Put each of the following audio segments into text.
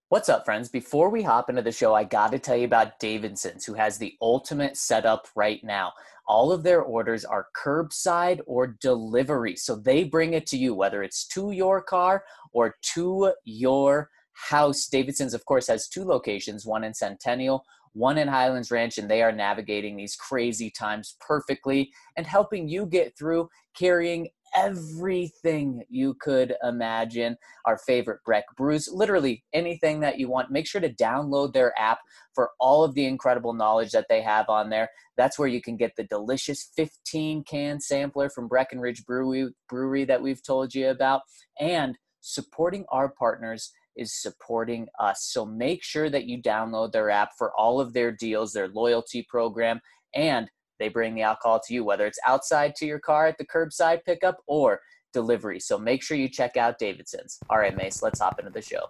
What's up, friends? Before we hop into the show, I got to tell you about Davidson's, who has the ultimate setup right now. All of their orders are curbside or delivery. So they bring it to you, whether it's to your car or to your house. Davidson's, of course, has two locations, one in Centennial, one in Highlands Ranch, and they are navigating these crazy times perfectly and helping you get through, carrying everything you could imagine. Our favorite Breck brews, literally anything that you want. Make sure to download their app for all of the incredible knowledge that they have on there. That's where you can get the delicious 15-can sampler from Breckenridge Brewery that we've told you about. And supporting our partners is supporting us. So make sure that you download their app for all of their deals, their loyalty program, and they bring the alcohol to you, whether it's outside to your car at the curbside pickup or delivery. So make sure you check out Davidson's. All right, Mace, let's hop into the show.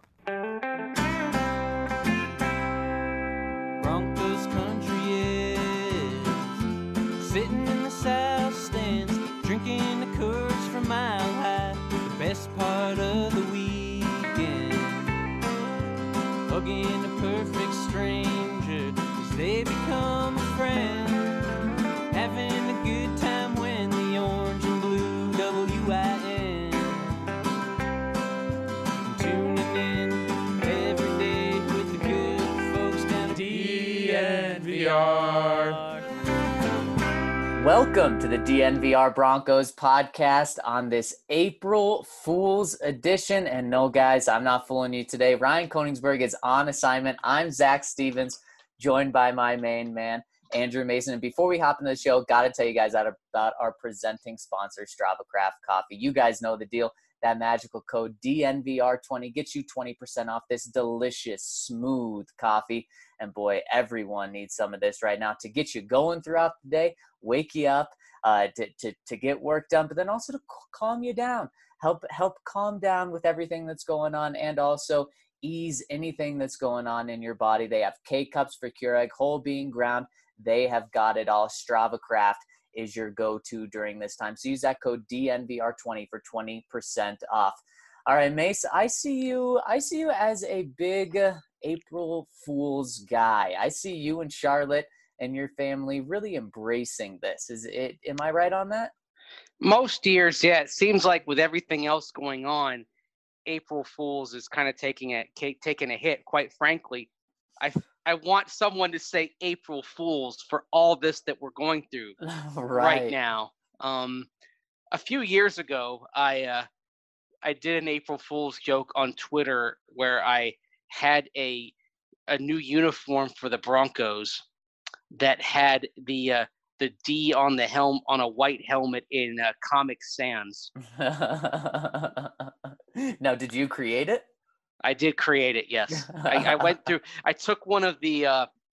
Broncos country is sitting in the south stands, drinking the Coors from Mile High. The best part of the weekend, hugging a perfect stranger as they become a friend. Having a good time when the orange and blue WIN. Tuning in every day with the good folks down at DNVR. Welcome to the DNVR Broncos podcast on this April Fool's edition. And no, guys, I'm not fooling you today. Ryan Koenigsberg is on assignment. I'm Zach Stevens, joined by my main man, Andrew Mason. And before we hop into the show, got to tell you guys about our presenting sponsor, Strava Craft Coffee. You guys know the deal. That magical code DNVR20 gets you 20% off this delicious, smooth coffee. And boy, everyone needs some of this right now to get you going throughout the day, wake you up, to get work done, but then also to calm you down, help calm down with everything that's going on, and also ease anything that's going on in your body. They have K-Cups for Keurig, whole bean ground. They have got it all. Strava Craft is your go-to during this time. So use that code DNVR20 for 20% off. All right, Mace, I see you as a big April Fool's guy. I see you and Charlotte and your family really embracing this. Am I right on that? Most years, yeah. It seems like with everything else going on, April Fool's is kind of taking a hit, quite frankly. I want someone to say April Fools for all this that we're going through right now. A few years ago, I did an April Fool's joke on Twitter where I had a new uniform for the Broncos that had the D on the helm on a white helmet in Comic Sans. Now, did you create it? I did create it, yes. I went through. I took one of the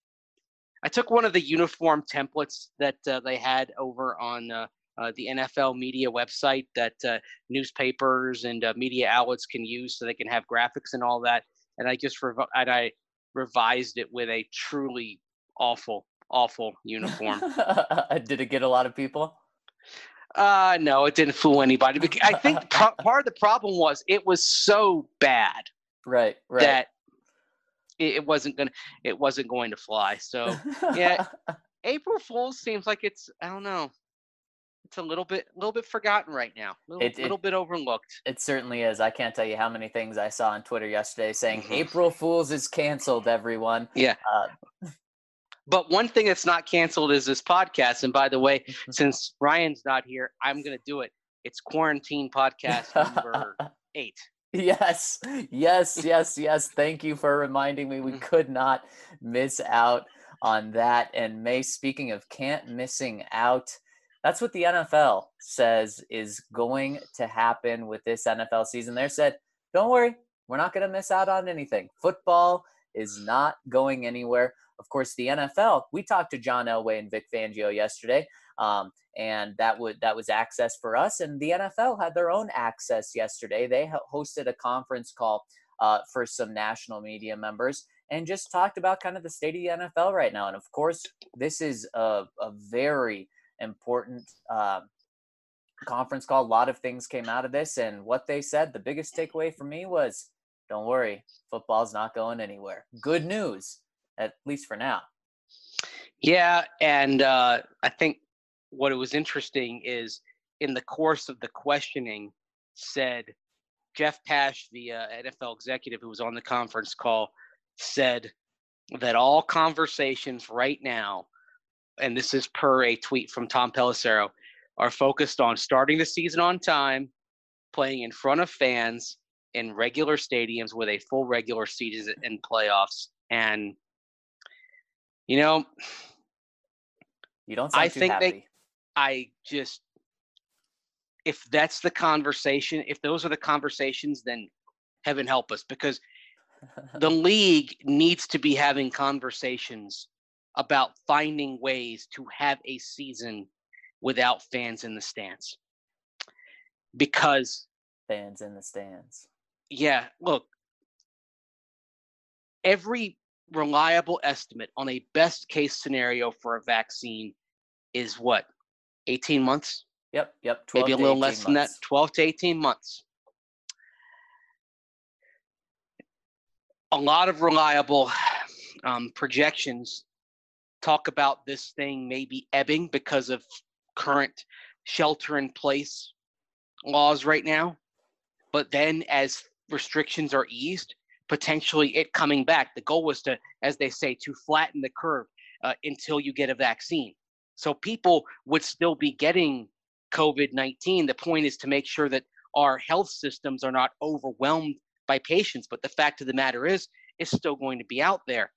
uniform templates that they had over on the NFL media website that newspapers and media outlets can use, so they can have graphics and all that. And I just I revised it with a truly awful uniform. Did it get a lot of people? No, it didn't fool anybody. I think part of the problem was it was so bad. Right. That it wasn't going to fly. So yeah, April Fool's seems like it's, I don't know, it's a little bit forgotten right now, little bit overlooked. It certainly is. I can't tell you how many things I saw on Twitter yesterday saying April Fool's is canceled. Everyone. Yeah. But one thing that's not canceled is this podcast. And by the way, since Ryan's not here, I'm going to do it. It's Quarantine Podcast number 8. Yes. Thank you for reminding me. We could not miss out on that. And May, speaking of missing out, that's what the NFL says is going to happen with this NFL season. They said, don't worry, we're not going to miss out on anything. Football is not going anywhere. Of course, the NFL, we talked to John Elway and Vic Fangio yesterday. And that was access for us. And the NFL had their own access yesterday. They hosted a conference call for some national media members and just talked about kind of the state of the NFL right now. And of course, this is a very important conference call. A lot of things came out of this. And what they said, the biggest takeaway for me was don't worry, football's not going anywhere. Good news, at least for now. Yeah, and I think what was interesting is in the course of the questioning said Jeff Pash, the NFL executive who was on the conference call, said that all conversations right now, and this is per a tweet from Tom Pelissero, are focused on starting the season on time, playing in front of fans in regular stadiums with a full regular season and playoffs. And, you know, you don't sound too happy. If that's the conversation, if those are the conversations, then heaven help us, because the league needs to be having conversations about finding ways to have a season without fans in the stands. Because fans in the stands. Yeah, look, every reliable estimate on a best case scenario for a vaccine is what? 18 months? Yep. Maybe a little less than that, 12 to 18 months. A lot of reliable projections talk about this thing maybe ebbing because of current shelter-in-place laws right now. But then as restrictions are eased, potentially it coming back. The goal was to, as they say, to flatten the curve until you get a vaccine. So people would still be getting COVID-19. The point is to make sure that our health systems are not overwhelmed by patients. But the fact of the matter is, it's still going to be out there.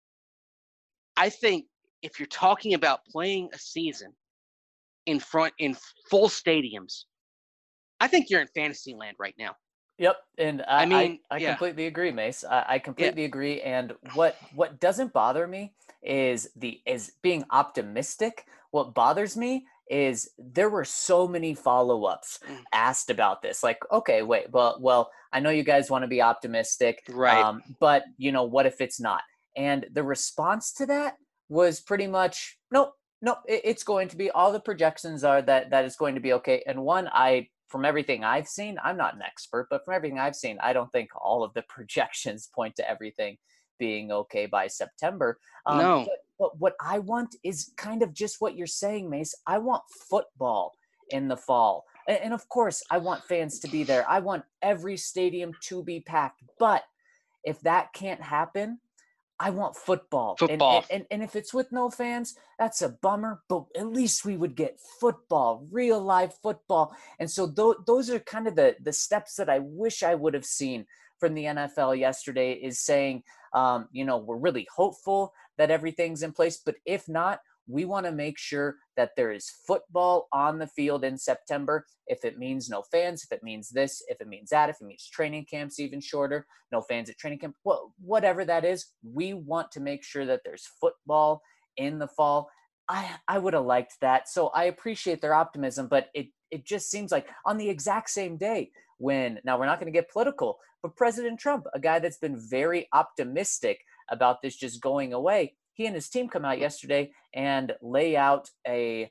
I think if you're talking about playing a season in full stadiums, I think you're in fantasy land right now. Yep, and I completely agree, Mace. I completely agree. And what doesn't bother me is being optimistic. What bothers me is there were so many follow-ups asked about this. Like, okay, wait, well, I know you guys want to be optimistic, right? But what if it's not? And the response to that was pretty much, nope, it's going to be, all the projections are that it's going to be okay. And from everything I've seen, I'm not an expert, but from everything I've seen, I don't think all of the projections point to everything being okay by September. No. But what I want is kind of just what you're saying, Mace. I want football in the fall. And of course, I want fans to be there. I want every stadium to be packed. But if that can't happen, I want football. And if it's with no fans, that's a bummer, but at least we would get football, real live football. And so those are kind of the steps that I wish I would have seen from the NFL yesterday, is saying, we're really hopeful that everything's in place, but if not, we want to make sure that there is football on the field in September. If it means no fans, if it means this, if it means that, if it means training camps even shorter, no fans at training camp, whatever that is, we want to make sure that there's football in the fall. I would have liked that. So I appreciate their optimism, but it just seems like on the exact same day now we're not going to get political, but President Trump, a guy that's been very optimistic about this just going away, he and his team come out yesterday and lay out a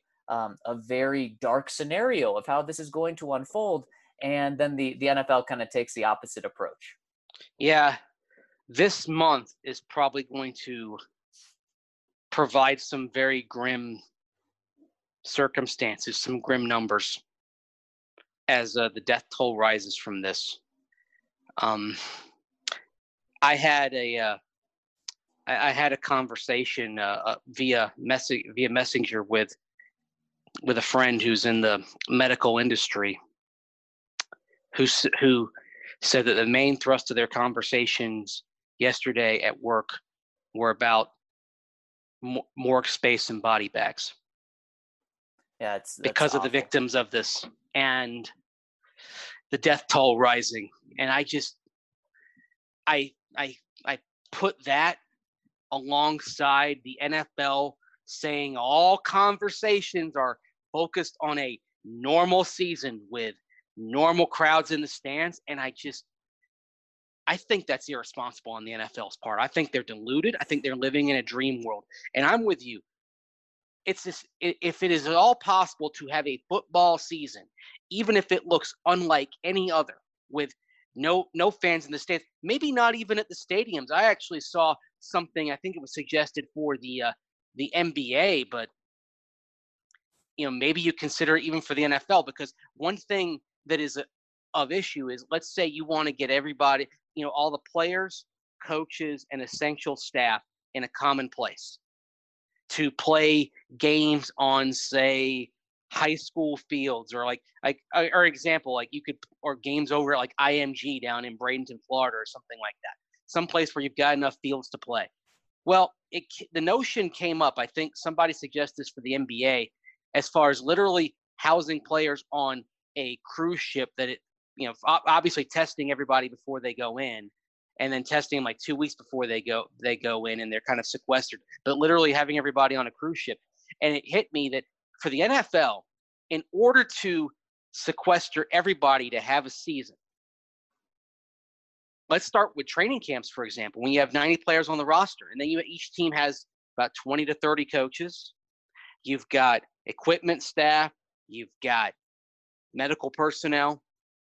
very dark scenario of how this is going to unfold. And then the NFL kind of takes the opposite approach. Yeah, this month is probably going to provide some very grim circumstances, some grim numbers as the death toll rises from this. I had a conversation via Messenger with a friend who's in the medical industry, who said that the main thrust of their conversations yesterday at work were about morgue space and body bags. Yeah, that's because awful. of the victims of this and the death toll rising. And I put that alongside the NFL saying all conversations are focused on a normal season with normal crowds in the stands. And I think that's irresponsible on the NFL's part. I think they're deluded. I think they're living in a dream world. And I'm with you. If it is at all possible to have a football season, even if it looks unlike any other, with no fans in the stands, maybe not even at the stadiums. I actually saw something, I think it was suggested for the NBA, but maybe you consider it even for the NFL, because one thing that is of issue is, let's say you want to get everybody, all the players, coaches, and essential staff in a common place to play games on, say, high school fields, or or example, like you could, or games over at like IMG down in Bradenton, Florida, or something like that, someplace where you've got enough fields to play. Well, the notion came up, I think somebody suggested this for the NBA, as far as literally housing players on a cruise ship that obviously testing everybody before they go in, and then testing them like 2 weeks before they go in, and they're kind of sequestered, but literally having everybody on a cruise ship. And it hit me that for the NFL, in order to sequester everybody to have a season, let's start with training camps, for example. When you have 90 players on the roster, and then each team has about 20 to 30 coaches, you've got equipment staff, you've got medical personnel,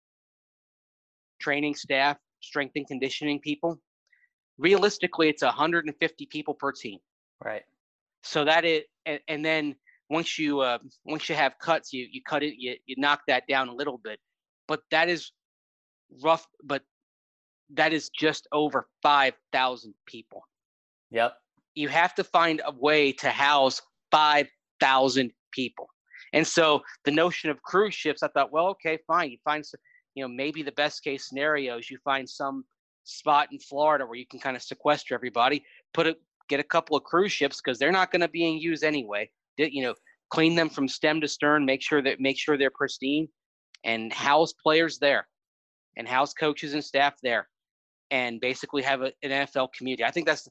training staff, strength and conditioning people. Realistically, it's 150 people per team. Right. So that is, and then once you have cuts, you cut it, you knock that down a little bit, but that is rough. But that is just over 5,000 people. Yep. You have to find a way to house 5,000 people. And so the notion of cruise ships, I thought, well, okay, fine. You find some, maybe the best case scenario is you find some spot in Florida where you can kind of sequester everybody, get a couple of cruise ships, because they're not going to be in use anyway. Clean them from stem to stern, make sure they're pristine, and house players there, and house coaches and staff there, and basically have an NFL community. I think that's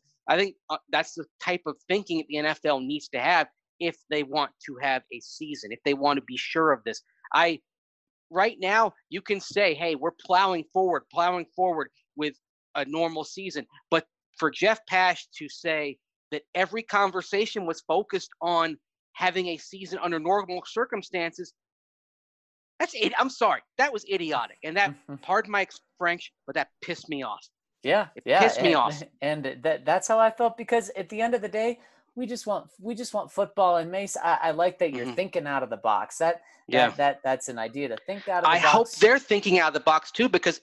the type of thinking the NFL needs to have if they want to have a season, if they want to be sure of this. Right now, you can say, hey, we're plowing forward with a normal season. But for Jeff Pash to say that every conversation was focused on having a season under normal circumstances, that's it. I'm sorry. That was idiotic. And that, pardon my French, but that pissed me off. Yeah. It pissed me off. And that's how I felt, because at the end of the day, we just want football. And Mace, I like that you're thinking out of the box. That's an idea to think out of the box. I hope they're thinking out of the box too, because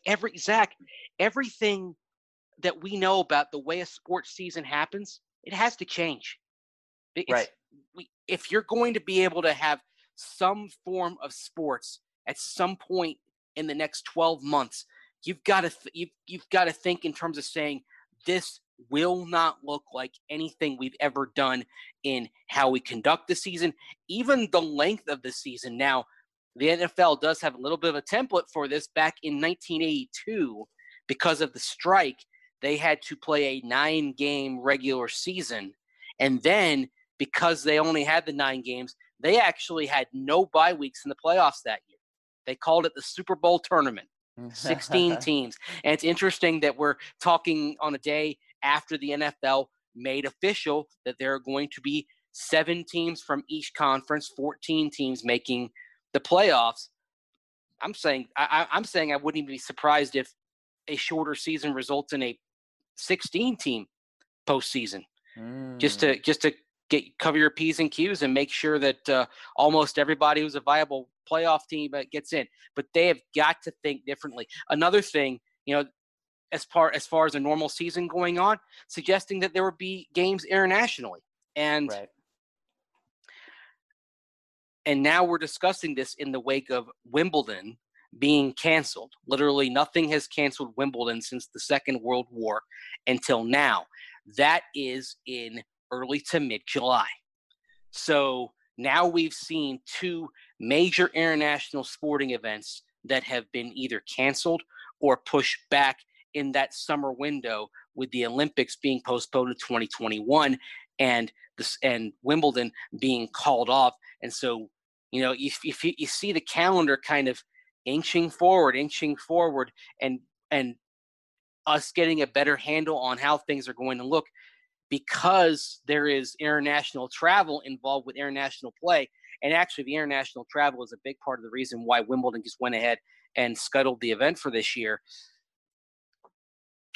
everything that we know about the way a sports season happens, it has to change. Right. If you're going to be able to have some form of sports at some point in the next 12 months, you've got to think in terms of saying, this will not look like anything we've ever done in how we conduct the season, even the length of the season. Now, the NFL does have a little bit of a template for this. Back in 1982, because of the strike, they had to play a 9-game regular season. And then, because they only had the 9 games, they actually had no bye weeks in the playoffs that year. They called it the Super Bowl tournament. 16 teams. And it's interesting that we're talking on a day after the NFL made official that there are going to be 7 teams from each conference, 14 teams making the playoffs. I'm saying I wouldn't even be surprised if a shorter season results in a 16-team postseason, just to cover your P's and Q's and make sure that almost everybody who's a viable playoff team gets in. But they have got to think differently. Another thing, as far as a normal season going on, suggesting that there would be games internationally. And right. And now we're discussing this in the wake of Wimbledon being canceled. Literally nothing has canceled Wimbledon since the Second World War until now. That is in early to mid-July. So now we've seen 2 major international sporting events that have been either canceled or pushed back in that summer window, with the Olympics being postponed to 2021 and Wimbledon being called off. And so, if you see the calendar kind of inching forward, and us getting a better handle on how things are going to look, because there is international travel involved with international play. And actually, the international travel is a big part of the reason why Wimbledon just went ahead and scuttled the event for this year.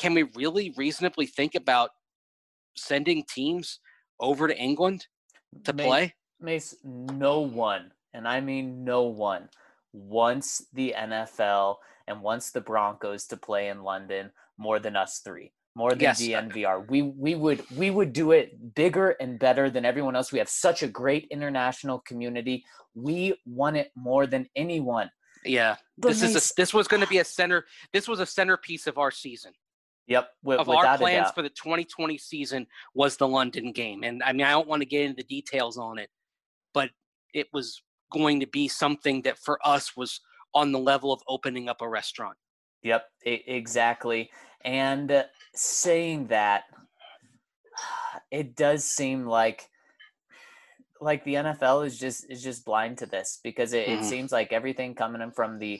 can we really reasonably think about sending teams over to England to play? Mace, no one, and I mean no one, wants the NFL and wants the Broncos to play in London more than us three, more than Yes. DNVR. We would do it bigger and better than everyone else. We have such a great international community. We want it more than anyone. Yeah, But this was going to be a centerpiece of our season. Yep, of our plans for the 2020 season was the London game. And I mean, I don't want to get into the details on it, but it was going to be something that for us was on the level of opening up a restaurant. Yep, exactly. And saying that, it does seem like the NFL is just blind to this, because it seems like everything coming in from the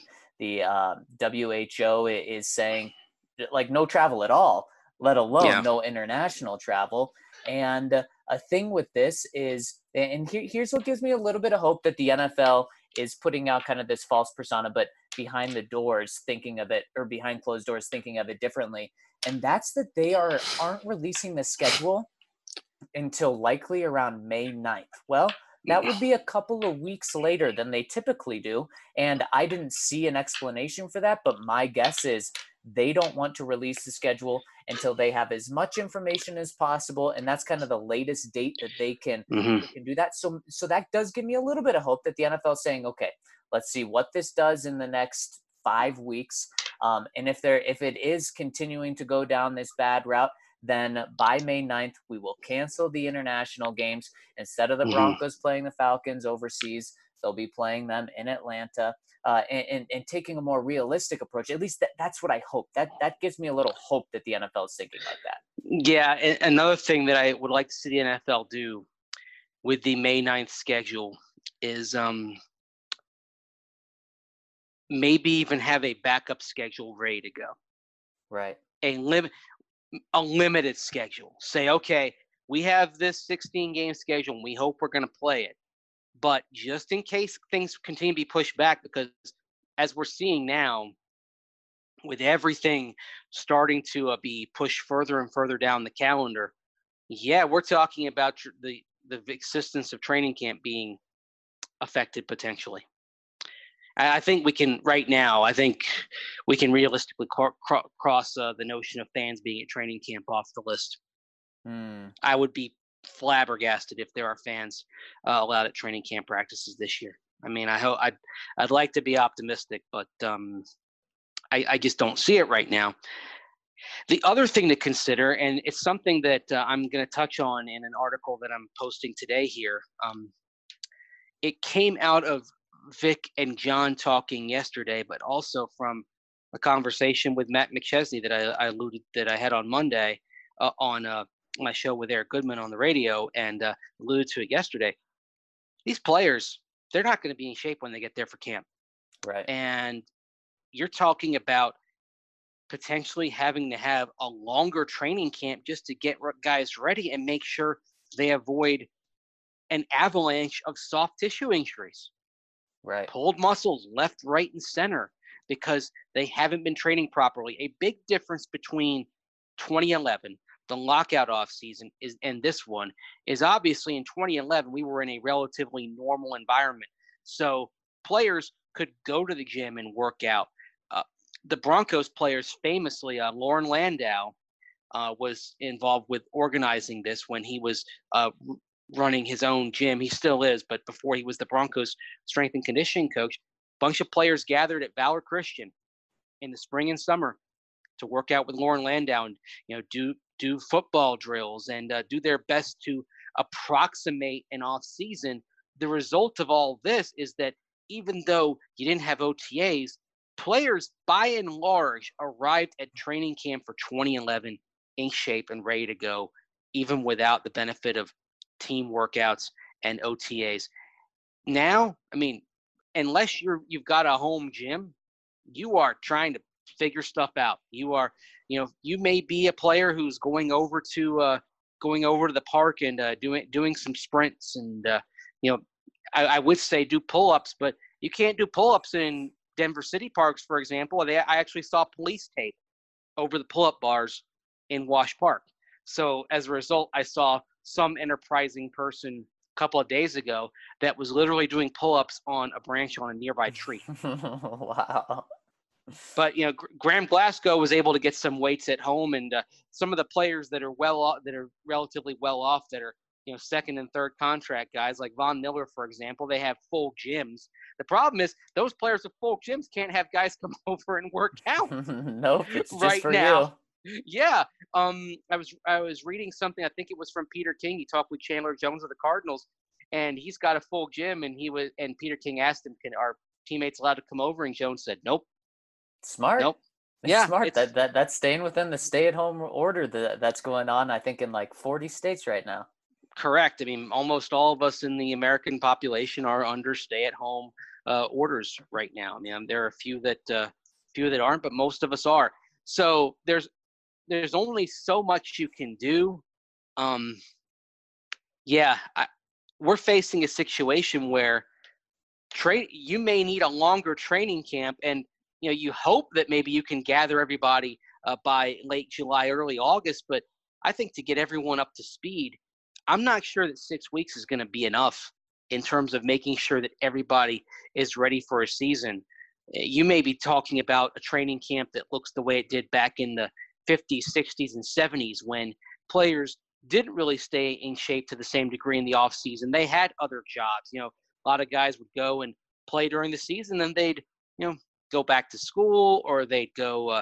WHO is saying like no travel at all, let alone no international travel. And a thing with this is, and here's what gives me a little bit of hope, that the NFL is putting out kind of this false persona, but behind the doors thinking of it, or behind closed doors thinking of it differently. And that's that they aren't releasing the schedule until likely around May 9th. Well, that would be a couple of weeks later than they typically do. And I didn't see an explanation for that, but my guess is they don't want to release the schedule until they have as much information as possible. And that's kind of the latest date that they can do that. So that does give me a little bit of hope that the NFL is saying, okay, let's see what this does in the next 5 weeks. And if it is continuing to go down this bad route, then by May 9th, we will cancel the international games. Instead of the Broncos playing the Falcons overseas, they'll be playing them in Atlanta, and taking a more realistic approach. At least that's what I hope. That gives me a little hope that the NFL is thinking like that. Yeah, and another thing that I would like to see the NFL do with the May 9th schedule is maybe even have a backup schedule ready to go. Right. A limited schedule. Say, okay, we have this 16-game schedule, and we hope we're going to play it. But just in case things continue to be pushed back, because as we're seeing now, with everything starting to be pushed further and further down the calendar, yeah, we're talking about the existence of training camp being affected potentially. I think we can realistically cross the notion of fans being at training camp off the list. I would be flabbergasted if there are fans allowed at training camp practices this year. I mean, I'd like to be optimistic, but I just don't see it right now. The other thing to consider, and it's something that I'm going to touch on in an article that I'm posting today here. It came out of Vic and John talking yesterday, but also from a conversation with Matt McChesney that I had on Monday on my show with Eric Goodman on the radio, and alluded to it yesterday. These players, they're not going to be in shape when they get there for camp. Right. And you're talking about potentially having to have a longer training camp just to get guys ready and make sure they avoid an avalanche of soft tissue injuries. Right. Pulled muscles left, right, and center because they haven't been training properly. A big difference between 2011, the lockout off season, and this one is obviously in 2011, we were in a relatively normal environment. So players could go to the gym and work out. The Broncos players famously, Lauren Landau was involved with organizing this when he was running his own gym. He still is, but before he was the Broncos strength and conditioning coach, a bunch of players gathered at Valor Christian in the spring and summer to work out with Lauren Landau and do football drills and do their best to approximate an off season. The result of all this is that even though you didn't have OTAs, players by and large arrived at training camp for 2011 in shape and ready to go, even without the benefit of team workouts and OTAs. Now, I mean, unless you've got a home gym, you are trying to figure stuff out. You may be a player who's going over to the park and doing some sprints and I would say do pull-ups, but you can't do pull-ups in Denver City Parks, for example. I actually saw police tape over the pull-up bars in Wash Park. So as a result, I saw some enterprising person a couple of days ago that was literally doing pull-ups on a branch on a nearby tree. Wow. But Graham Glasgow was able to get some weights at home, and some of the players that are well off, that are relatively well off, that are second and third contract guys like Von Miller, for example, they have full gyms. The problem is those players with full gyms can't have guys come over and work out. Nope, it's just right for now. you. Yeah. I was reading something. I think it was from Peter King. He talked with Chandler Jones of the Cardinals, and he's got a full gym. And Peter King asked him, "Can our teammates allowed to come over?" And Jones said, "Nope." Smart. Nope. It's Yeah, smart. That's staying within the stay-at-home order that's going on, I think, in like 40 states right now. Correct. I mean, almost all of us in the American population are under stay-at-home orders right now. I mean, there are a few that aren't, but most of us are. So there's only so much you can do. We're facing a situation where you may need a longer training camp, and you hope that maybe you can gather everybody by late July, early August. But I think to get everyone up to speed, I'm not sure that 6 weeks is going to be enough in terms of making sure that everybody is ready for a season. You may be talking about a training camp that looks the way it did back in the 50s, 60s, and 70s, when players didn't really stay in shape to the same degree in the off season. They had other jobs. A lot of guys would go and play during the season, and they'd go back to school, or they'd go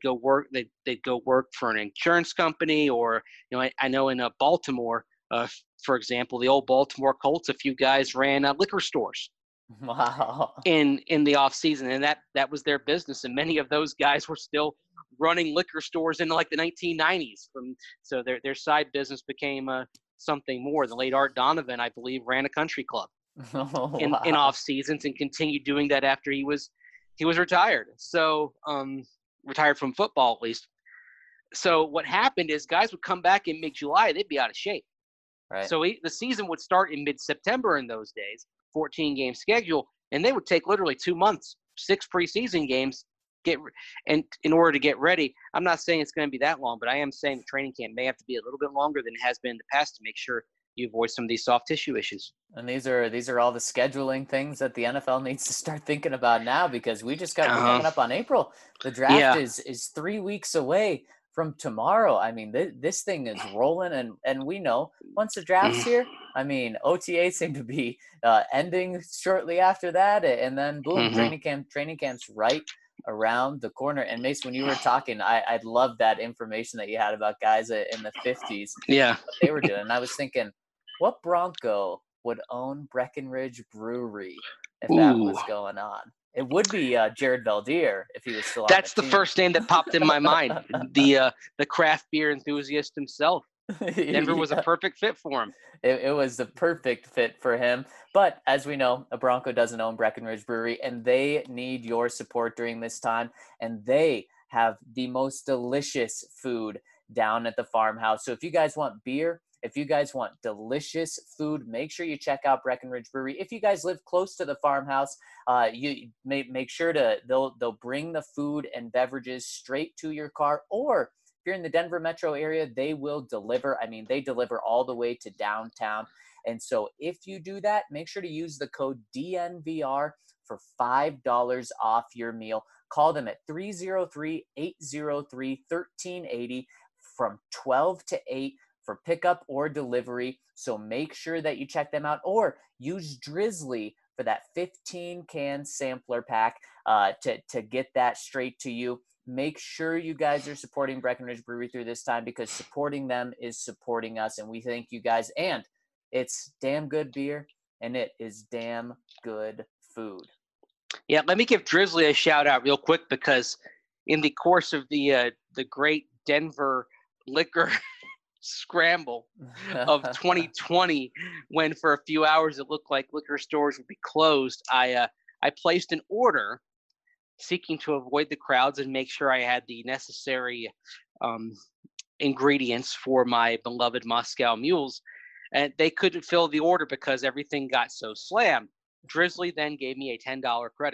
work for an insurance company, or I know in Baltimore, for example, the old Baltimore Colts, a few guys ran liquor stores. Wow. In the off season, and that was their business, and many of those guys were still running liquor stores in like the 1990s. So their side business became something more. The late Art Donovan, I believe, ran a country club in off seasons, and continued doing that after he was retired. So retired from football, at least. So what happened is guys would come back in mid-July, they'd be out of shape. Right. So the season would start in mid-September in those days, 14-game schedule, and they would take literally 2 months, 6 preseason games, in order to get ready. I'm not saying it's going to be that long, but I am saying the training camp may have to be a little bit longer than it has been in the past to make sure you avoid some of these soft tissue issues. And these are all the scheduling things that the NFL needs to start thinking about now, because we're coming up on April. The draft is 3 weeks away from tomorrow. I mean, this thing is rolling, and we know once the draft's here, I mean, OTA seem to be ending shortly after that, and then boom, training camp's right around the corner. And Mace, when you were talking, I love that information that you had about guys in the 50s. Yeah, what they were doing. And I was thinking, what Bronco would own Breckenridge Brewery if that was going on? It would be Jared Valdir if he was still on That's the the first name that popped in my mind. The craft beer enthusiast himself. Denver was a perfect fit for him. It was the perfect fit for him. But as we know, a Bronco doesn't own Breckenridge Brewery, and they need your support during this time. And they have the most delicious food down at the farmhouse. So if you guys want beer, if you guys want delicious food, make sure you check out Breckenridge Brewery. If you guys live close to the farmhouse, you make sure they'll bring the food and beverages straight to your car. Or if you're in the Denver metro area, they will deliver. I mean, they deliver all the way to downtown. And so if you do that, make sure to use the code DNVR for $5 off your meal. Call them at 303-803-1380 from 12 to 8 for pickup or delivery. So make sure that you check them out, or use Drizzly for that 15-can sampler pack to get that straight to you. Make sure you guys are supporting Breckenridge Brewery through this time, because supporting them is supporting us, and we thank you guys. And it's damn good beer, and it is damn good food. Yeah, let me give Drizzly a shout out real quick, because in the course of the great Denver liquor scramble of 2020, when for a few hours it looked like liquor stores would be closed, I placed an order seeking to avoid the crowds and make sure I had the necessary ingredients for my beloved Moscow Mules. And they couldn't fill the order because everything got so slammed. Drizzly then gave me a $10 credit.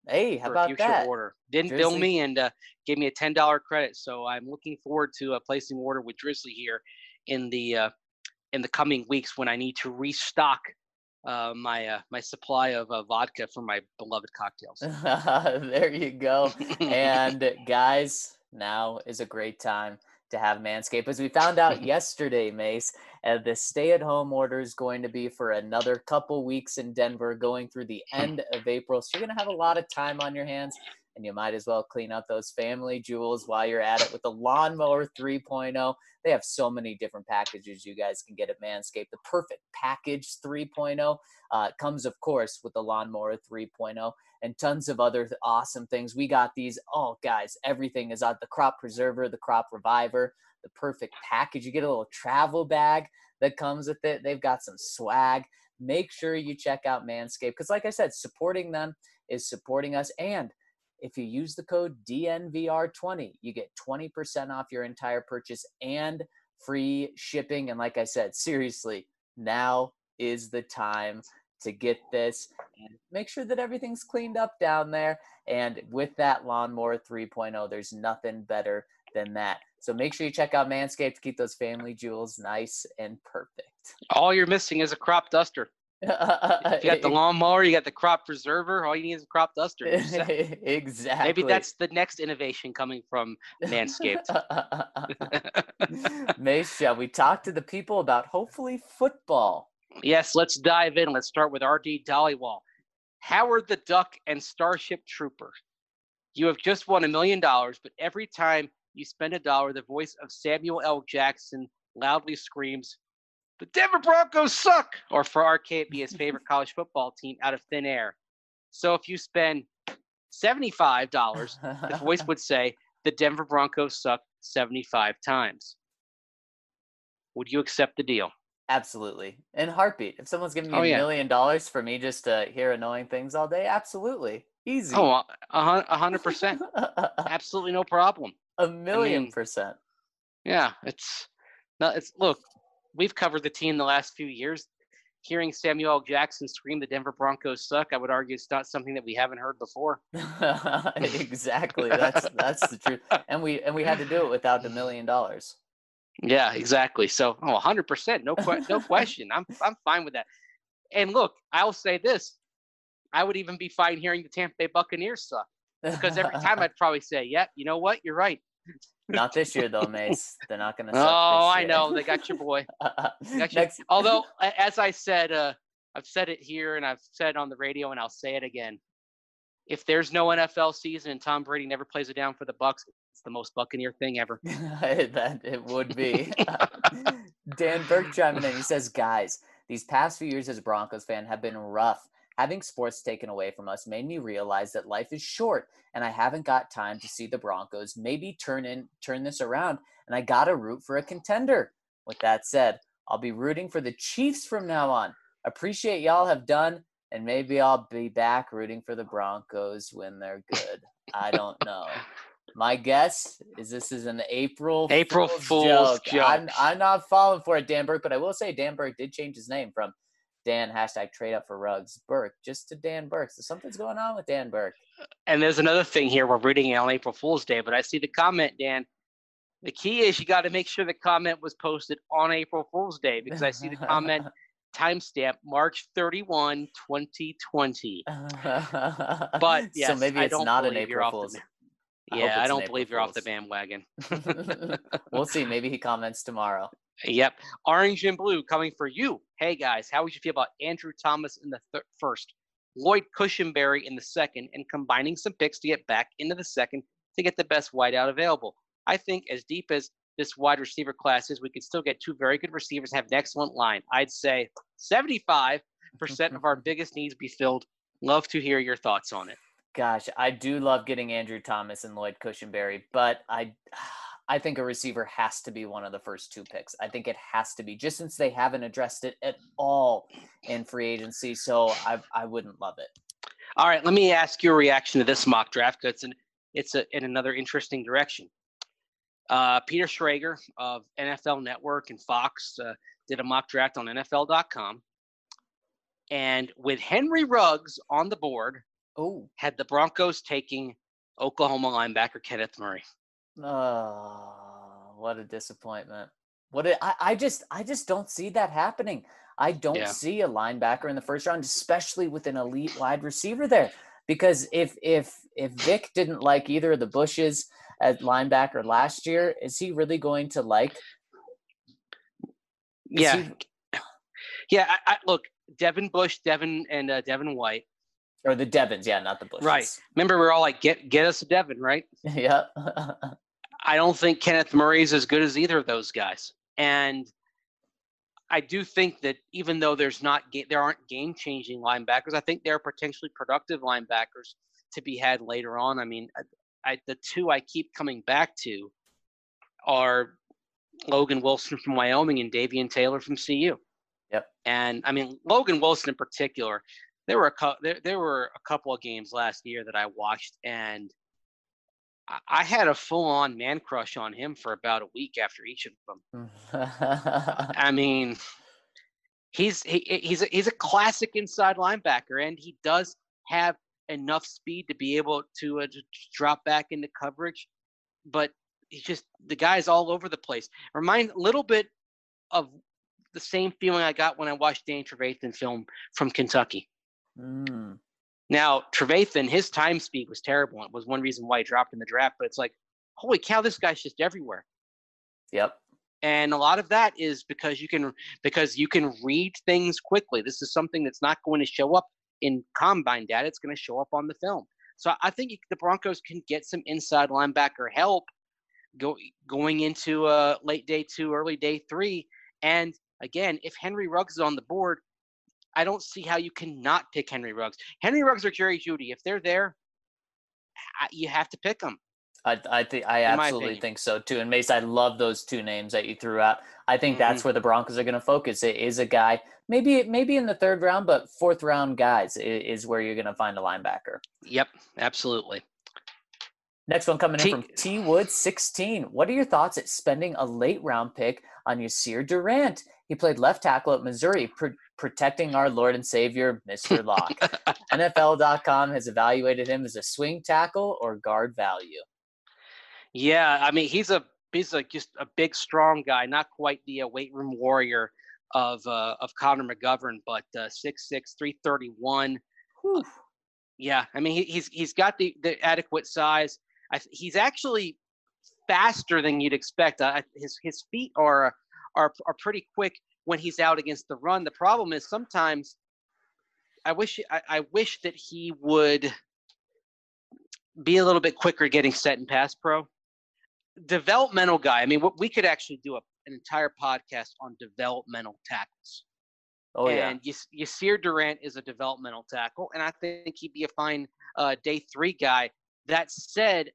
Hey, how for a about future that? order. Didn't bill Drizzly. me and gave me a $10 credit. So I'm looking forward to placing order with Drizzly here in the coming weeks when I need to restock my supply of vodka for my beloved cocktails. There you go. And guys, now is a great time to have Manscaped. As we found out yesterday, Mace, the stay-at-home order is going to be for another couple weeks in Denver, going through the end of April. So you're going to have a lot of time on your hands, and you might as well clean up those family jewels while you're at it with the Lawnmower 3.0. They have so many different packages you guys can get at Manscaped. The Perfect Package 3.0 comes, of course, with the Lawnmower 3.0 and tons of other awesome things. We got these. Oh, guys, everything is on the Crop Preserver, the Crop Reviver, the Perfect Package. You get a little travel bag that comes with it. They've got some swag. Make sure you check out Manscaped because, like I said, supporting them is supporting us. And if you use the code DNVR20, you get 20% off your entire purchase and free shipping. And like I said, seriously, now is the time to get this and make sure that everything's cleaned up down there. And with that Lawnmower 3.0, there's nothing better than that. So make sure you check out Manscaped to keep those family jewels nice and perfect. All you're missing is a crop duster. If you got the lawnmower, you got the crop preserver. All you need is a crop duster. Exactly. Maybe that's the next innovation coming from Manscaped. Mace, shall we talk to the people about hopefully football? Yes, let's dive in. Let's start with RD Dollywall. Howard the Duck and Starship Trooper. You have just won $1 million, but every time you spend $1, the voice of Samuel L. Jackson loudly screams, "The Denver Broncos suck!" Or for RK, it'd be his favorite college football team out of thin air. So if you spend $75, the voice would say, "The Denver Broncos suck 75 times." Would you accept the deal? Absolutely. In heartbeat. If someone's giving me Oh, $1 yeah. million for me just to hear annoying things all day, absolutely. Easy. Oh, 100%. Absolutely no problem. 1,000,000%. Yeah, look, we've covered the team the last few years. Hearing Samuel L. Jackson scream "The Denver Broncos suck," I would argue it's not something that we haven't heard before. Exactly. That's the truth. And we had to do it without $1 million. Yeah, exactly. So, 100%, no question. I'm fine with that. And look, I'll say this: I would even be fine hearing the Tampa Bay Buccaneers suck, because every time I'd probably say, "Yeah, you know what? You're right." Not this year, though, Mace. They're not going to suck this Oh, I year. know. They got your boy. Although, as I said, I've said it here and I've said it on the radio and I'll say it again. If there's no NFL season and Tom Brady never plays it down for the Bucs, it's the most Buccaneer thing ever. That it would be. Dan Burke chiming in. He says, guys, these past few years as a Broncos fan have been rough. Having sports taken away from us made me realize that life is short and I haven't got time to see the Broncos maybe turn this around, and I got to root for a contender. With that said, I'll be rooting for the Chiefs from now on. Appreciate y'all have done, and maybe I'll be back rooting for the Broncos when they're good. I don't know. My guess is this is an April Fool's joke. I'm not falling for it, Dan Burke, but I will say Dan Burke did change his name from Dan #trade up for Ruggs Burke just to Dan Burke. So something's going on with Dan Burke. And there's another thing here. We're reading it on April Fool's Day, but I see the comment, Dan. The key is you got to make sure the comment was posted on April Fool's Day, because I see the comment timestamp March 31, 2020. But yes, so maybe it's not an April Fool's. Yeah, I don't believe you're off the bandwagon. We'll see. Maybe he comments tomorrow. Yep. Orange and Blue coming for you. Hey, guys, how would you feel about Andrew Thomas in the first, Lloyd Cushenberry in the second, and combining some picks to get back into the second to get the best wideout available? I think as deep as this wide receiver class is, we could still get two very good receivers and have an excellent line. I'd say 75% of our biggest needs be filled. Love to hear your thoughts on it. Gosh, I do love getting Andrew Thomas and Lloyd Cushenberry, but I think a receiver has to be one of the first two picks. I think it has to be, just since they haven't addressed it at all in free agency. So I wouldn't love it. All right, let me ask your reaction to this mock draft, because it's in another interesting direction. Peter Schrager of NFL Network and Fox did a mock draft on NFL.com. And with Henry Ruggs on the board Oh, had the Broncos taking Oklahoma linebacker Kenneth Murray. oh, what a disappointment. I just don't see that happening. I don't Yeah. see a linebacker in the first round, especially with an elite wide receiver there. Because if Vic didn't like either of the Bushes at linebacker last year, is he really going to like? Yeah. I look, Devin Bush, Devin White. Or the Devons, yeah, not the Bushes. Right. Remember, we're all like, get us a Devin, right? Yeah. I don't think Kenneth Murray's as good as either of those guys. And I do think that even though there aren't game-changing linebackers, I think there are potentially productive linebackers to be had later on. I mean, the two I keep coming back to are Logan Wilson from Wyoming and Davian Taylor from CU. Yep. And I mean, Logan Wilson in particular, there were a couple of games last year that I watched, and I had a full-on man crush on him for about a week after each of them. I mean, he's a classic inside linebacker, and he does have enough speed to be able to drop back into coverage, but he's just the guy's all over the place. Remind a little bit of the same feeling I got when I watched Danny Trevathan film from Kentucky. Mm. Now, Trevathan, his time speed was terrible. It was one reason why he dropped in the draft, but it's like, holy cow, this guy's just everywhere. Yep. And a lot of that is because you can read things quickly. This is something that's not going to show up in combine data. It's going to show up on the film. So I think the Broncos can get some inside linebacker help going into late day 2, early day 3. And again, if Henry Ruggs is on the board, I don't see how you cannot pick Henry Ruggs. Henry Ruggs or Jerry Jeudy, if they're there, you have to pick them. I absolutely think so too. And Mace, I love those two names that you threw out. I think that's where the Broncos are going to focus. It is a guy, maybe in the 3rd round, but 4th round guys is where you're going to find a linebacker. Yep, absolutely. Next one coming in from T Wood 16. What are your thoughts at spending a late round pick on Yasir Durant? He played left tackle at Missouri, protecting our Lord and Savior, Mr. Locke. NFL.com has evaluated him as a swing tackle or guard value. Yeah, I mean he's just a big, strong guy, not quite the weight room warrior of Connor McGovern, but 6'6", 331. Yeah, I mean he's got the adequate size. He's actually faster than you'd expect. His feet are pretty quick when he's out against the run. The problem is sometimes I wish that he would be a little bit quicker getting set in pass pro. Developmental guy. I mean, we could actually do an entire podcast on developmental tackles. Oh, yeah. And Yasir Durant is a developmental tackle, and I think he'd be a fine day 3 guy. That said,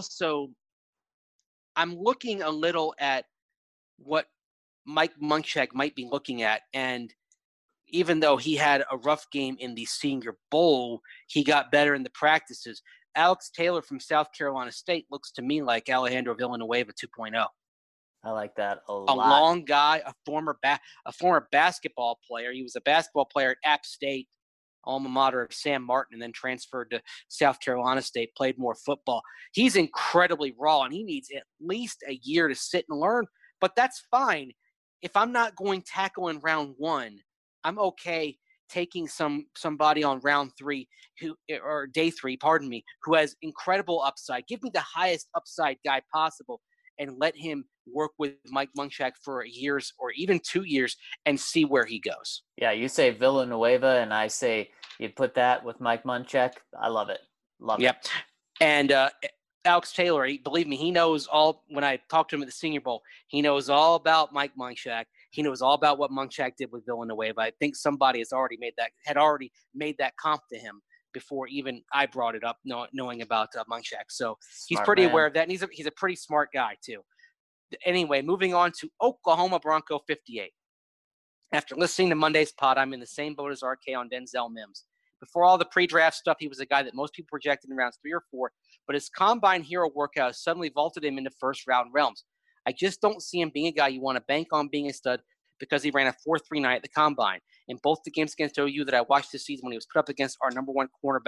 I'm looking a little at what Mike Munchak might be looking at, and even though he had a rough game in the Senior Bowl, he got better in the practices. Alex Taylor from South Carolina State looks to me like Alejandro Villanueva 2.0. I like that a lot. A long guy, a former basketball player. He was a basketball player at App State, alma mater of Sam Martin, and then transferred to South Carolina State, played more football. He's incredibly raw, and he needs at least a year to sit and learn, but that's fine. If I'm not going tackle in round 1, I'm okay taking somebody on round 3 or day 3, who has incredible upside. Give me the highest upside guy possible and let him work with Mike Munchak for years or even 2 years and see where he goes. Yeah, you say Villanueva, and I say you put that with Mike Munchak. I love it. Love it. And Alex Taylor, believe me, he knows all. When I talked to him at the Senior Bowl, he knows all about Mike Munchak. He knows all about what Munchak did with Villanueva. I think somebody had already made that comp to him before even I brought it up, knowing about Munchak. So he's pretty aware of that, and he's a pretty smart guy too. Anyway, moving on to Oklahoma Bronco 58. After listening to Monday's pod, I'm in the same boat as RK on Denzel Mims. Before all the pre-draft stuff, he was a guy that most people projected in rounds 3 or 4, but his combine hero workout suddenly vaulted him into first-round realms. I just don't see him being a guy you want to bank on being a stud because he ran a 4.39 at the combine. In both the games against OU that I watched this season when he was put up against our number 1 cornerback,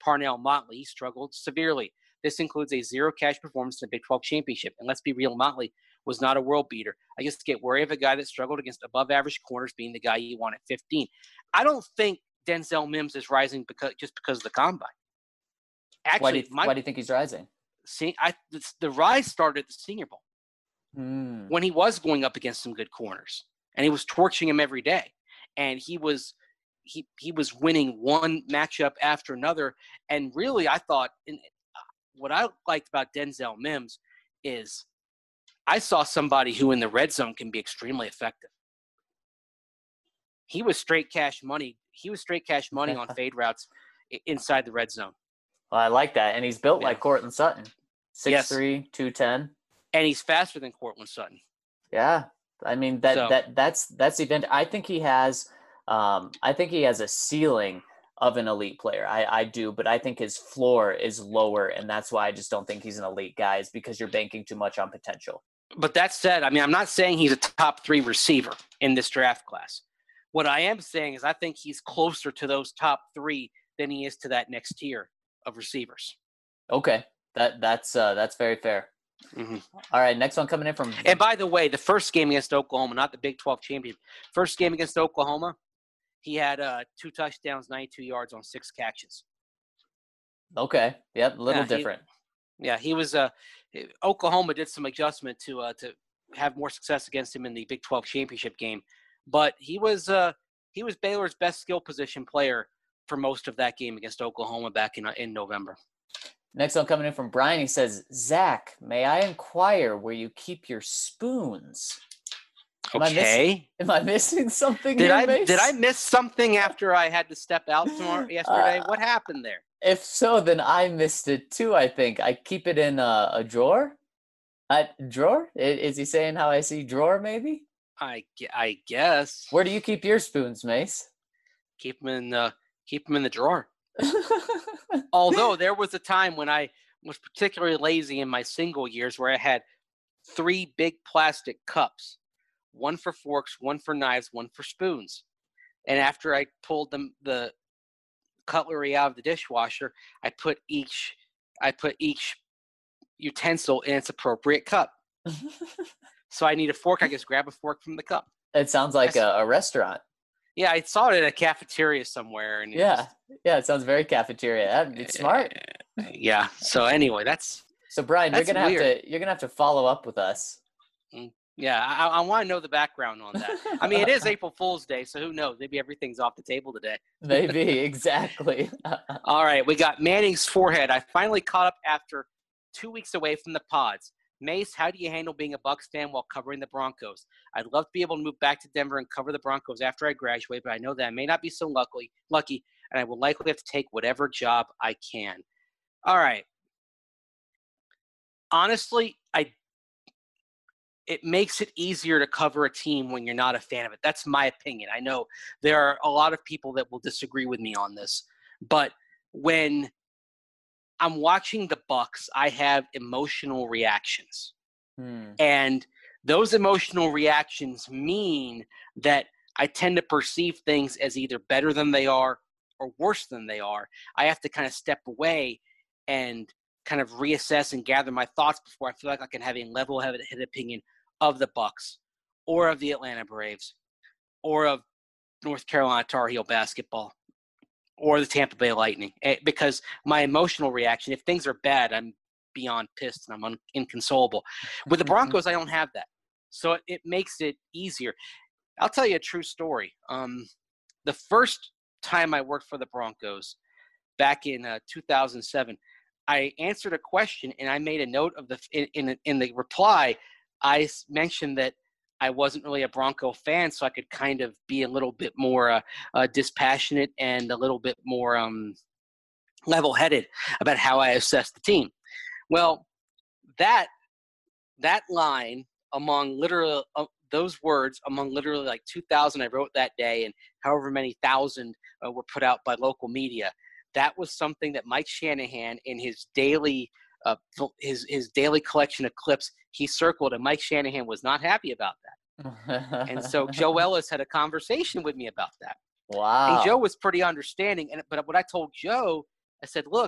Parnell Motley. He struggled severely. This includes a zero cash performance in the Big 12 championship. And let's be real, Motley was not a world beater. I just get worried of a guy that struggled against above average corners being the guy you want at 15. I don't think Denzel Mims is rising just because of the combine. Actually, why do you think he's rising? The rise started at the Senior Bowl Hmm. when he was going up against some good corners, and he was torching him every day. And he was winning one matchup after another. And really, I thought what I liked about Denzel Mims is I saw somebody who in the red zone can be extremely effective. He was straight cash money. He was straight cash money on fade routes inside the red zone. Well, I like that. And he's built like Courtland Sutton. 6'3", Yes. 210. And he's faster than Courtland Sutton. Yeah. I mean, that's the event. I think he has a ceiling of an elite player. I do, but I think his floor is lower, and that's why I just don't think he's an elite guy, is because you're banking too much on potential. But that said, I mean, I'm not saying he's a top 3 receiver in this draft class. What I am saying is I think he's closer to those top 3 than he is to that next tier of receivers. Okay. That's very fair. Mm-hmm. All right, next one coming in from. And by the way, the first game against Oklahoma, not the Big 12 champion, first game against Oklahoma, he had 2 touchdowns, 92 yards on 6 catches. Okay. Yep. A little different. He was. Oklahoma did some adjustment to have more success against him in the Big 12 championship game, but he was Baylor's best skill position player for most of that game against Oklahoma back in November. Next one coming in from Brian. He says, Zach, may I inquire where you keep your spoons? Am I missing something Did here, Mace? Did I miss something after I had to step out yesterday? What happened there? If so, then I missed it too, I think. I keep it in a drawer. Drawer? Is he saying how I see drawer, maybe? I guess. Where do you keep your spoons, Mace? Keep them in the drawer. Although there was a time when I was particularly lazy in my single years where I had 3 big plastic cups, one for forks, one for knives, one for spoons. And after I pulled the cutlery out of the dishwasher, I put each utensil in its appropriate cup. So I need a fork, I just grab a fork from the cup. It sounds like a restaurant. Yeah, I saw it at a cafeteria somewhere. And it sounds very cafeteria. It's smart. Yeah. So anyway, So Brian, you're gonna have to follow up with us. Yeah, I want to know the background on that. I mean, it is April Fool's Day, so who knows? Maybe everything's off the table today. Maybe, exactly. All right, we got Manning's forehead. I finally caught up after 2 weeks away from the pods. Mace, how do you handle being a Bucs fan while covering the Broncos? I'd love to be able to move back to Denver and cover the Broncos after I graduate, but I know that I may not be so lucky, and I will likely have to take whatever job I can. All right. Honestly, it makes it easier to cover a team when you're not a fan of it. That's my opinion. I know there are a lot of people that will disagree with me on this, but when I'm watching the Bucs, I have emotional reactions. And those emotional reactions mean that I tend to perceive things as either better than they are or worse than they are. I have to kind of step away and kind of reassess and gather my thoughts before I feel like I can have a level-headed opinion of the Bucs or of the Atlanta Braves or of North Carolina Tar Heel basketball or the Tampa Bay Lightning, because my emotional reaction, if things are bad, I'm beyond pissed and I'm inconsolable. With the Broncos, I don't have that. So it makes it easier. I'll tell you a true story. The first time I worked for the Broncos back in 2007, I answered a question and I made a note of in the reply. I mentioned that I wasn't really a Bronco fan, so I could kind of be a little bit more dispassionate and a little bit more level-headed about how I assessed the team. Well, that line among literally those words among literally like 2,000 I wrote that day, and however many thousand were put out by local media. That was something that Mike Shanahan in his daily his daily collection of clips he circled, and Mike Shanahan was not happy about that. And so Joe Ellis had a conversation with me about that. Wow. And Joe was pretty understanding. But what I told Joe I said, look,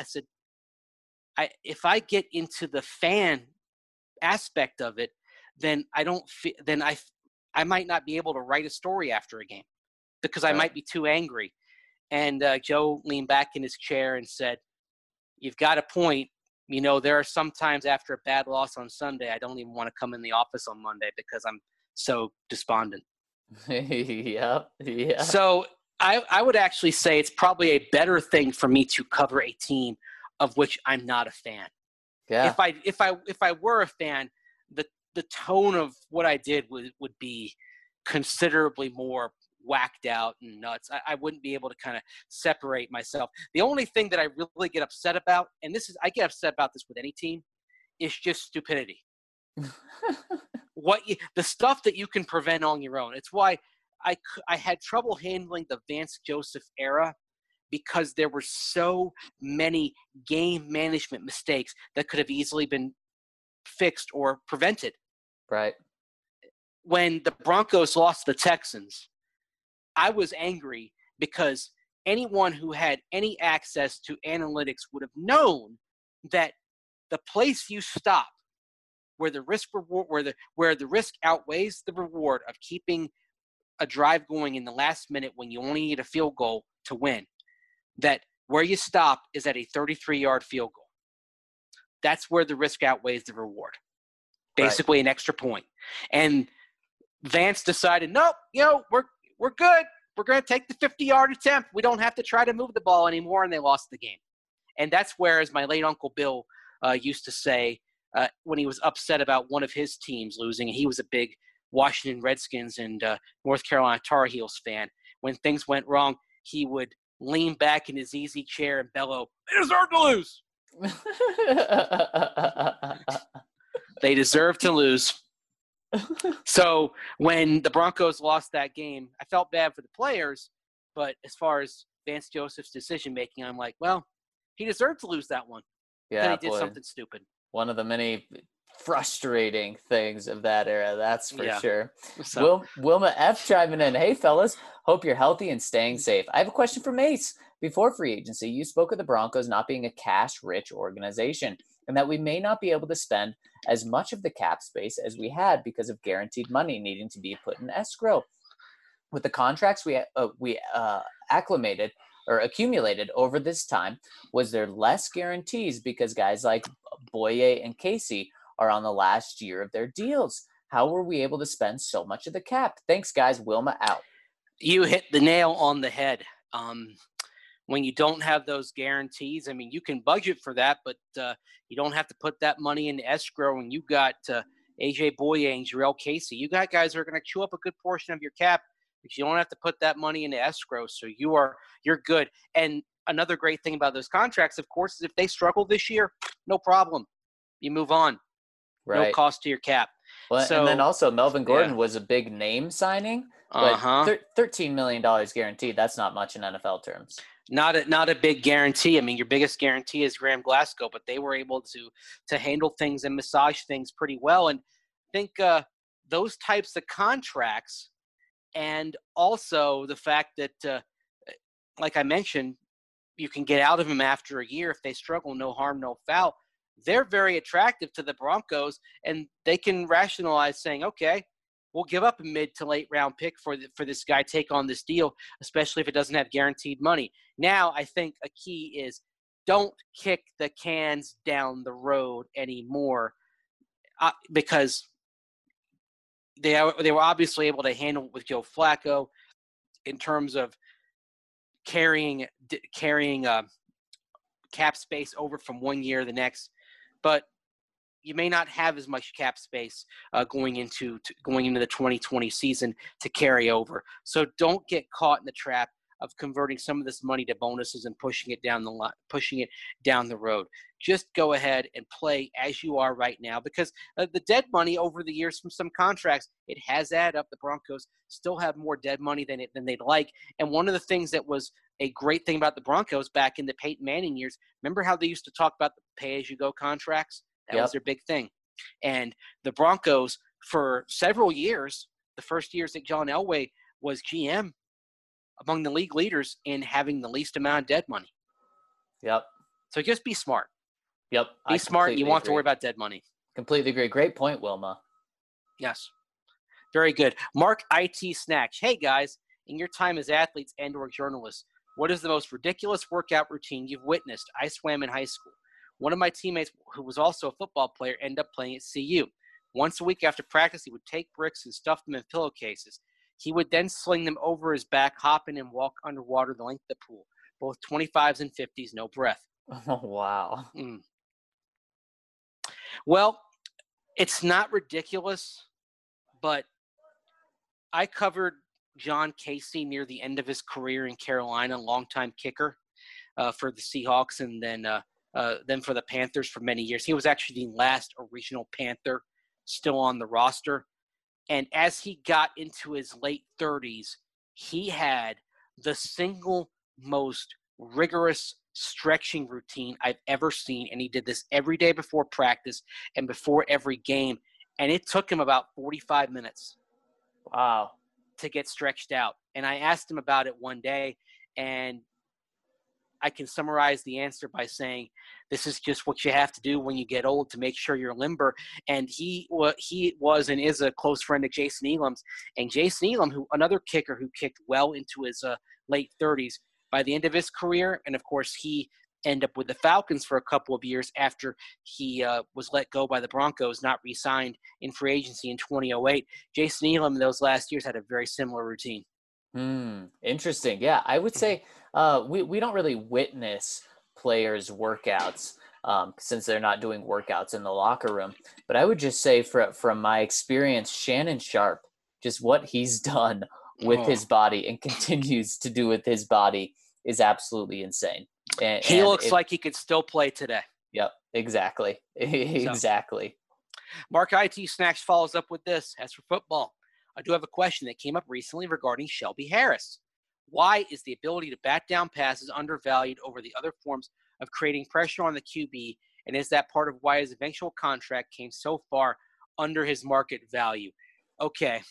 if I get into the fan aspect of it, then I might not be able to write a story after a game because I might be too angry. And Joe leaned back in his chair and said, you've got a point. There are some times after a bad loss on Sunday, I don't even want to come in the office on Monday because I'm so despondent. Yeah. So I would actually say it's probably a better thing for me to cover a team of which I'm not a fan. Yeah. If I were a fan, the tone of what I did would be considerably more whacked out and nuts. I wouldn't be able to kind of separate myself. The only thing that I really get upset about, and I get upset about this with any team, is just stupidity. The stuff that you can prevent on your own. It's why I had trouble handling the Vance Joseph era, because there were so many game management mistakes that could have easily been fixed or prevented. Right. When the Broncos lost the Texans, I was angry because anyone who had any access to analytics would have known that the place you stop where the risk outweighs the reward of keeping a drive going in the last minute when you only need a field goal to win, that where you stop is at a 33-yard field goal. That's where the risk outweighs the reward. Basically an extra point. And Vance decided, nope, we're good. We're going to take the 50-yard attempt. We don't have to try to move the ball anymore, and they lost the game. And that's where, as my late Uncle Bill used to say when he was upset about one of his teams losing, and he was a big Washington Redskins and North Carolina Tar Heels fan. When things went wrong, he would lean back in his easy chair and bellow, "They deserve to lose." They deserve to lose. So when the Broncos lost that game, I felt bad for the players, but as far as Vance Joseph's decision-making, I'm like, well, he deserved to lose that one. Yeah, he did something stupid. One of the many frustrating things of that era, that's for sure. So, Wilma F. chiming in, hey, fellas, hope you're healthy and staying safe. I have a question for Mace. Before free agency, you spoke of the Broncos not being a cash-rich organization and that we may not be able to spend as much of the cap space as we had because of guaranteed money needing to be put in escrow. With the contracts we accumulated over this time, was there less guarantees because guys like Boye and Casey are on the last year of their deals? How were we able to spend so much of the cap? Thanks, guys. Wilma out. You hit the nail on the head. When you don't have those guarantees, I mean, you can budget for that, but you don't have to put that money into escrow. And you got AJ Boye and Jarrell Casey. You got guys who are going to chew up a good portion of your cap, but you don't have to put that money into escrow. So you're good. And another great thing about those contracts, of course, is if they struggle this year, no problem. You move on. Right. No cost to your cap. Well, so, and then also Melvin Gordon was a big name signing, but $13 million guaranteed. That's not much in NFL terms. Not a big guarantee. I mean, your biggest guarantee is Graham Glasgow, but they were able to handle things and massage things pretty well. And I think those types of contracts, and also the fact that, like I mentioned, you can get out of them after a year if they struggle. No harm, no foul. They're very attractive to the Broncos, and they can rationalize saying, okay, we'll give up a mid to late round pick for this guy, take on this deal, especially if it doesn't have guaranteed money. Now, I think a key is don't kick the cans down the road anymore because they were obviously able to handle it with Joe Flacco in terms of carrying cap space over from one year to the next. But you may not have as much cap space going into the 2020 season to carry over. So don't get caught in the trap of converting some of this money to bonuses and pushing it down the road. Just go ahead and play as you are right now, because the dead money over the years from some contracts, it has added up. The Broncos still have more dead money than they'd like. And one of the things that was a great thing about the Broncos back in the Peyton Manning years, remember how they used to talk about the pay-as-you-go contracts? That was their big thing. And the Broncos, for several years, the first years that John Elway was GM, among the league leaders in having the least amount of dead money. Yep. So just be smart. Yep. Be I smart. You completely won't have to agree. worry about dead money. Completely agree. Great point, Wilma. Yes. Very good. Mark IT Snatch. Hey, guys, in your time as athletes and or journalists, what is the most ridiculous workout routine you've witnessed? I swam in high school. One of my teammates, who was also a football player, ended up playing at CU. Once a week after practice, he would take bricks and stuff them in pillowcases. He would then sling them over his back, hop in, and walk underwater the length of the pool. Both 25s and 50s, no breath. Oh, wow. Well, it's not ridiculous, but I covered John Casey near the end of his career in Carolina, longtime kicker for the Seahawks, and then for the Panthers for many years. He was actually the last original Panther still on the roster. And as he got into his late 30s, he had the single most rigorous stretching routine I've ever seen. And he did this every day before practice and before every game. And it took him about 45 minutes. Wow. To get stretched out. And I asked him about it one day, and I can summarize the answer by saying, this is just what you have to do when you get old to make sure you're limber. And he was and is a close friend of Jason Elam's. And Jason Elam, another kicker who kicked well into his late 30s, by the end of his career, and of course he ended up with the Falcons for a couple of years after he was let go by the Broncos, not re-signed in free agency in 2008. Jason Elam in those last years had a very similar routine. Interesting. Yeah, I would say we don't really witness players' workouts since they're not doing workouts in the locker room. But I would just say from my experience, Shannon Sharp, just what he's done with his body and continues to do with his body is absolutely insane. And he looks like he could still play today. Yep, exactly. Exactly. Mark IT Snacks follows up with this. As for football, I do have a question that came up recently regarding Shelby Harris. Why is the ability to bat down passes undervalued over the other forms of creating pressure on the QB? And is that part of why his eventual contract came so far under his market value? Okay.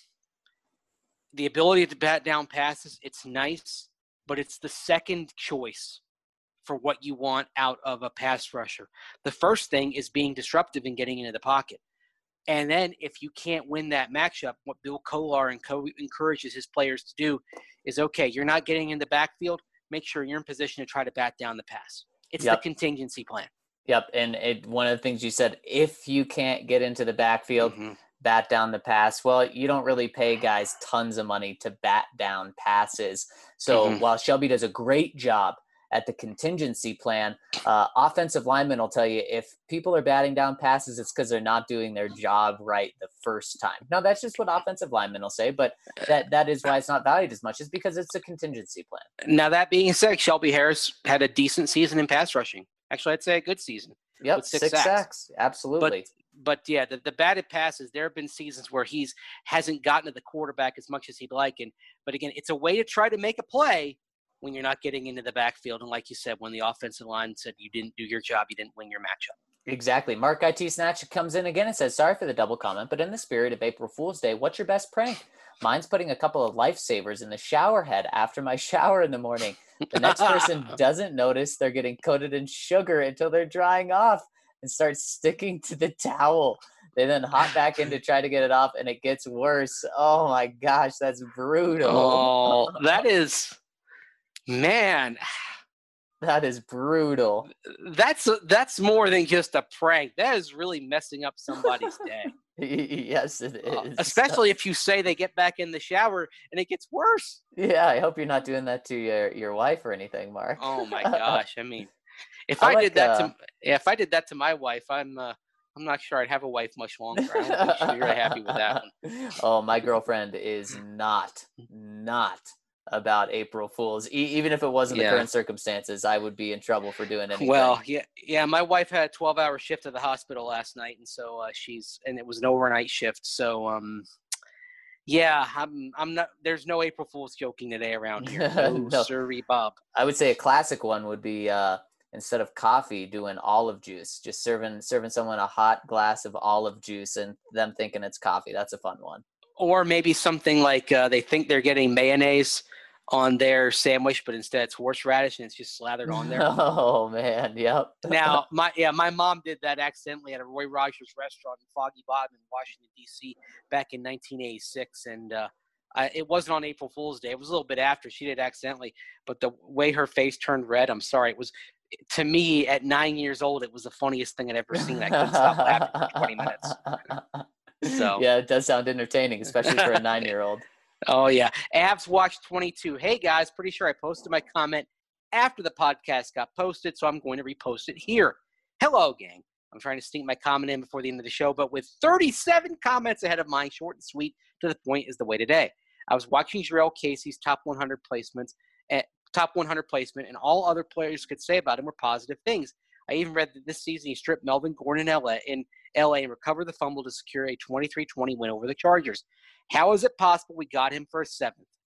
The ability to bat down passes, it's nice, but it's the second choice for what you want out of a pass rusher. The first thing is being disruptive and getting into the pocket. And then if you can't win that matchup, what Bill Kollar and encourages his players to do is, okay, you're not getting in the backfield, make sure you're in position to try to bat down the pass. It's the contingency plan. Yep, and one of the things you said, if you can't get into the backfield, bat down the pass. Well, you don't really pay guys tons of money to bat down passes. So while Shelby does a great job at the contingency plan, offensive linemen will tell you if people are batting down passes, it's because they're not doing their job right the first time. Now, that's just what offensive linemen will say, but that is why it's not valued as much, is because it's a contingency plan. Now, that being said, Shelby Harris had a decent season in pass rushing. Actually, I'd say a good season. Yep, 6 sacks. Absolutely. But yeah, the batted passes, there have been seasons where hasn't gotten to the quarterback as much as he'd like. But again, it's a way to try to make a play when you're not getting into the backfield. And like you said, when the offensive line said you didn't do your job, you didn't win your matchup. Exactly. Mark IT Snatch comes in again and says, sorry for the double comment, but in the spirit of April Fool's Day, what's your best prank? Mine's putting a couple of lifesavers in the shower head after my shower in the morning. The next person doesn't notice they're getting coated in sugar until they're drying off and start sticking to the towel. They then hop back in to try to get it off, and it gets worse. Oh, my gosh, that's brutal. Oh, that is – man. That is brutal. That's more than just a prank. That is really messing up somebody's day. Yes, it is. Especially if you say they get back in the shower and it gets worse. Yeah, I hope you're not doing that to your wife or anything, Mark. Oh my gosh! I mean, if I did that to my wife, I'm not sure I'd have a wife much longer. I don't think she'd be very happy with that one. Oh, my girlfriend is not about April Fools. Even if it wasn't the current circumstances, I would be in trouble for doing anything. Well, yeah. My wife had a 12-hour shift at the hospital last night, and so and it was an overnight shift. So, I'm not. There's no April Fools joking today around here. No, sorry, Bob. I would say a classic one would be instead of coffee, doing olive juice. Just serving someone a hot glass of olive juice and them thinking it's coffee. That's a fun one. Or maybe something like they think they're getting mayonnaise on their sandwich, but instead it's horseradish and it's just slathered on there. Oh man, yep. Now, my mom did that accidentally at a Roy Rogers restaurant in Foggy Bottom in Washington, D.C. back in 1986, and it wasn't on April Fool's Day. It was a little bit after. She did it accidentally, but the way her face turned red, I'm sorry, it was, to me, at 9 years old, it was the funniest thing I'd ever seen. I couldn't stop laughing for 20 minutes. So yeah, it does sound entertaining, especially for a 9-year-old. Oh, yeah. Avs Watch 22. Hey, guys, pretty sure I posted my comment after the podcast got posted, so I'm going to repost it here. Hello, gang. I'm trying to sneak my comment in before the end of the show, but with 37 comments ahead of mine, short and sweet, to the point is the way today. I was watching Jarrell Casey's top 100 placement, and all other players could say about him were positive things. I even read that this season he stripped Melvin Gordon in LA and recovered the fumble to secure a 23-20 win over the Chargers. How is it possible we got him for a 7th?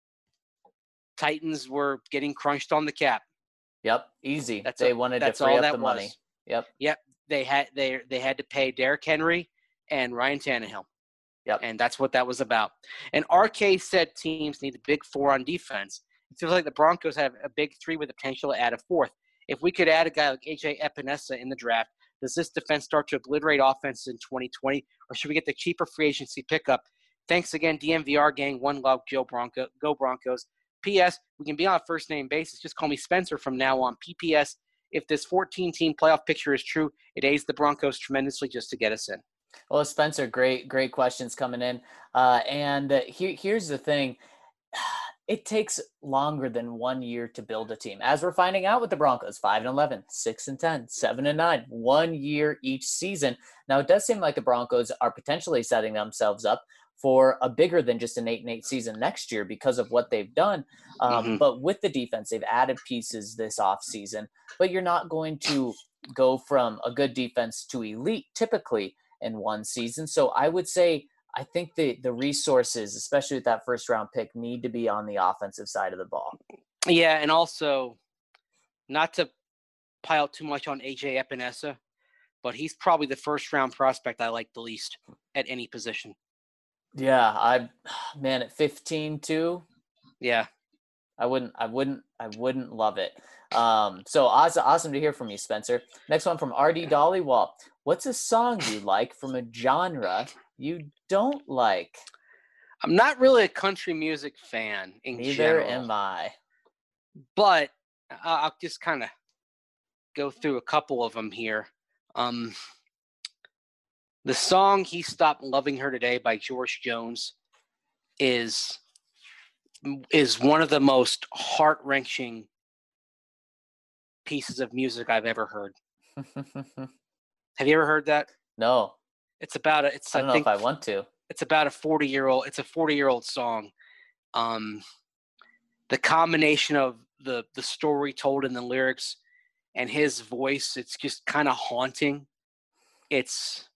Titans were getting crunched on the cap. Yep, easy. They wanted to free up the money. Yep. They had to pay Derrick Henry and Ryan Tannehill. Yep. And that's what that was about. And RK said teams need a big 4 on defense. It feels like the Broncos have a big 3 with the potential to add a 4th. If we could add a guy like AJ Epinesa in the draft, does this defense start to obliterate offenses in 2020, or should we get the cheaper free agency pickup? Thanks again, DMVR gang. One love, go Broncos. P.S. We can be on a first-name basis. Just call me Spencer from now on. P.P.S. If this 14-team playoff picture is true, it aids the Broncos tremendously just to get us in. Well, Spencer, great questions coming in. Here's the thing. It takes longer than 1 year to build a team. As we're finding out with the Broncos, 5-11, 6-10, 7-9, 1 year each season. Now, it does seem like the Broncos are potentially setting themselves up for a bigger than just an 8-8 season next year because of what they've done. But with the defense, they've added pieces this offseason. But you're not going to go from a good defense to elite typically in one season. So I would say I think the resources, especially with that first-round pick, need to be on the offensive side of the ball. Yeah, and also, not to pile too much on AJ Epinesa, but he's probably the first-round prospect I like the least at any position. Yeah, at 15 too. Yeah, I wouldn't love it. So awesome to hear from you, Spencer. Next one from RD Dollywall. What's a song you like from a genre you don't like? I'm not really a country music fan in general. Neither am I. But I'll just kind of go through a couple of them here. The song "He Stopped Loving Her Today" by George Jones is one of the most heart-wrenching pieces of music I've ever heard. Have you ever heard that? No. It's about I don't know if I want to. It's about a 40-year-old song. The combination of the story told in the lyrics and his voice, it's just kind of haunting. It's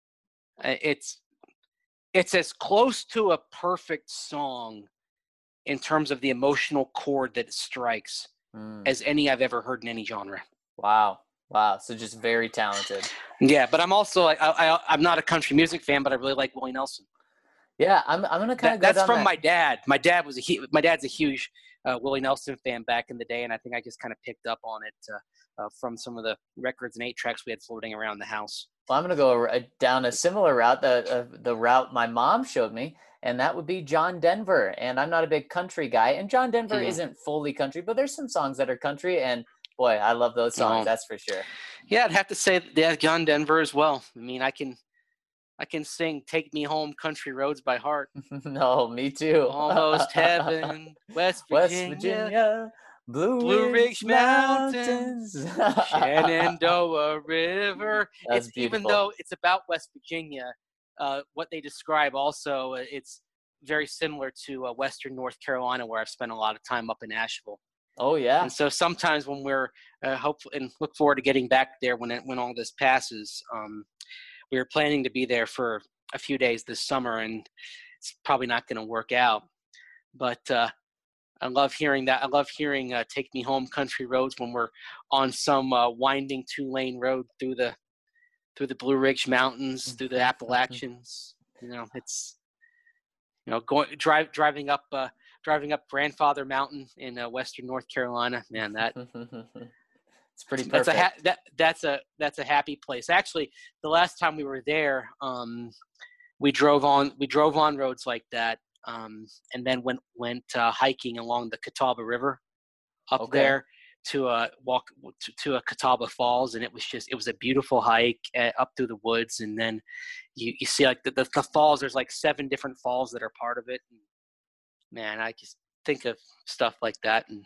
as close to a perfect song in terms of the emotional chord that it strikes as any I've ever heard in any genre. Wow. So just very talented. Yeah, but I'm also I'm not a country music fan, but I really like Willie Nelson. Yeah, I'm gonna kind of go that's down from that. my dad. My dad's a huge Willie Nelson fan back in the day, and I think I just kind of picked up on it from some of the records and 8-tracks we had floating around the house. Well, I'm gonna go down a similar route, the route my mom showed me, and that would be John Denver. And I'm not a big country guy, and John Denver isn't fully country, but there's some songs that are country, and boy, I love those songs. That's for sure. Yeah, I'd have to say, John Denver as well. I mean, I can sing "Take Me Home, Country Roads" by heart. No, me too. Almost heaven, West Virginia, Blue Ridge Mountains, Shenandoah River. That's beautiful. Even though it's about West Virginia, what they describe also, it's very similar to Western North Carolina, where I've spent a lot of time up in Asheville. Oh yeah. And so sometimes when we're hopeful and look forward to getting back there when all this passes, we were planning to be there for a few days this summer, and it's probably not going to work out. But I love hearing that. I love hearing "Take Me Home, Country Roads" when we're on some winding 2-lane road through the Blue Ridge Mountains, through the Appalachians. It's driving up driving up Grandfather Mountain in western North Carolina. Man, it's pretty perfect. That's a happy place. Actually, the last time we were there, we drove on roads like that, and then went hiking along the Catawba River up there to walk to a Catawba Falls, and it was a beautiful hike up through the woods, and then you see like the falls. There's like 7 different falls that are part of it. And, man, I just think of stuff like that, and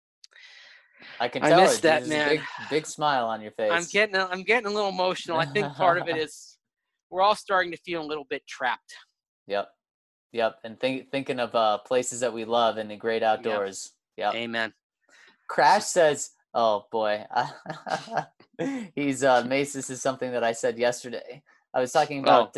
I can tell miss that, man. Big smile on your face. I'm getting a little emotional. I think part of it is we're all starting to feel a little bit trapped. Yep. And thinking of places that we love in the great outdoors. Yep. Amen. Crash says, "Oh boy, he's Mace. This is something that I said yesterday. I was talking about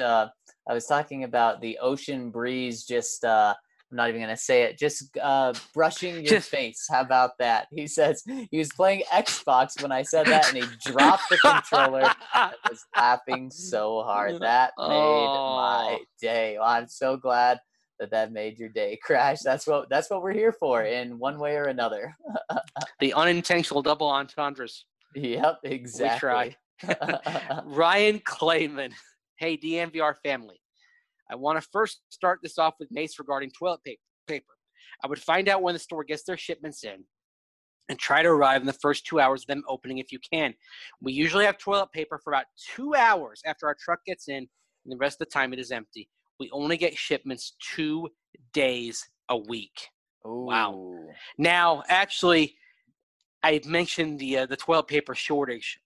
the ocean breeze. Just I'm not even gonna say it. Just brushing your face. How about that?" He says he was playing Xbox when I said that, and he dropped the controller. I was laughing so hard. That made my day. Well, I'm so glad that made your day, Crash. That's what we're here for in one way or another. The unintentional double entendres. Yep, exactly. We try. Ryan Clayman. Hey, DMVR family. I want to first start this off with Mace regarding toilet paper. I would find out when the store gets their shipments in and try to arrive in the first 2 hours of them opening if you can. We usually have toilet paper for about 2 hours after our truck gets in, and the rest of the time it is empty. We only get shipments 2 days a week. Ooh. Wow. Now, actually, I mentioned the toilet paper shortage.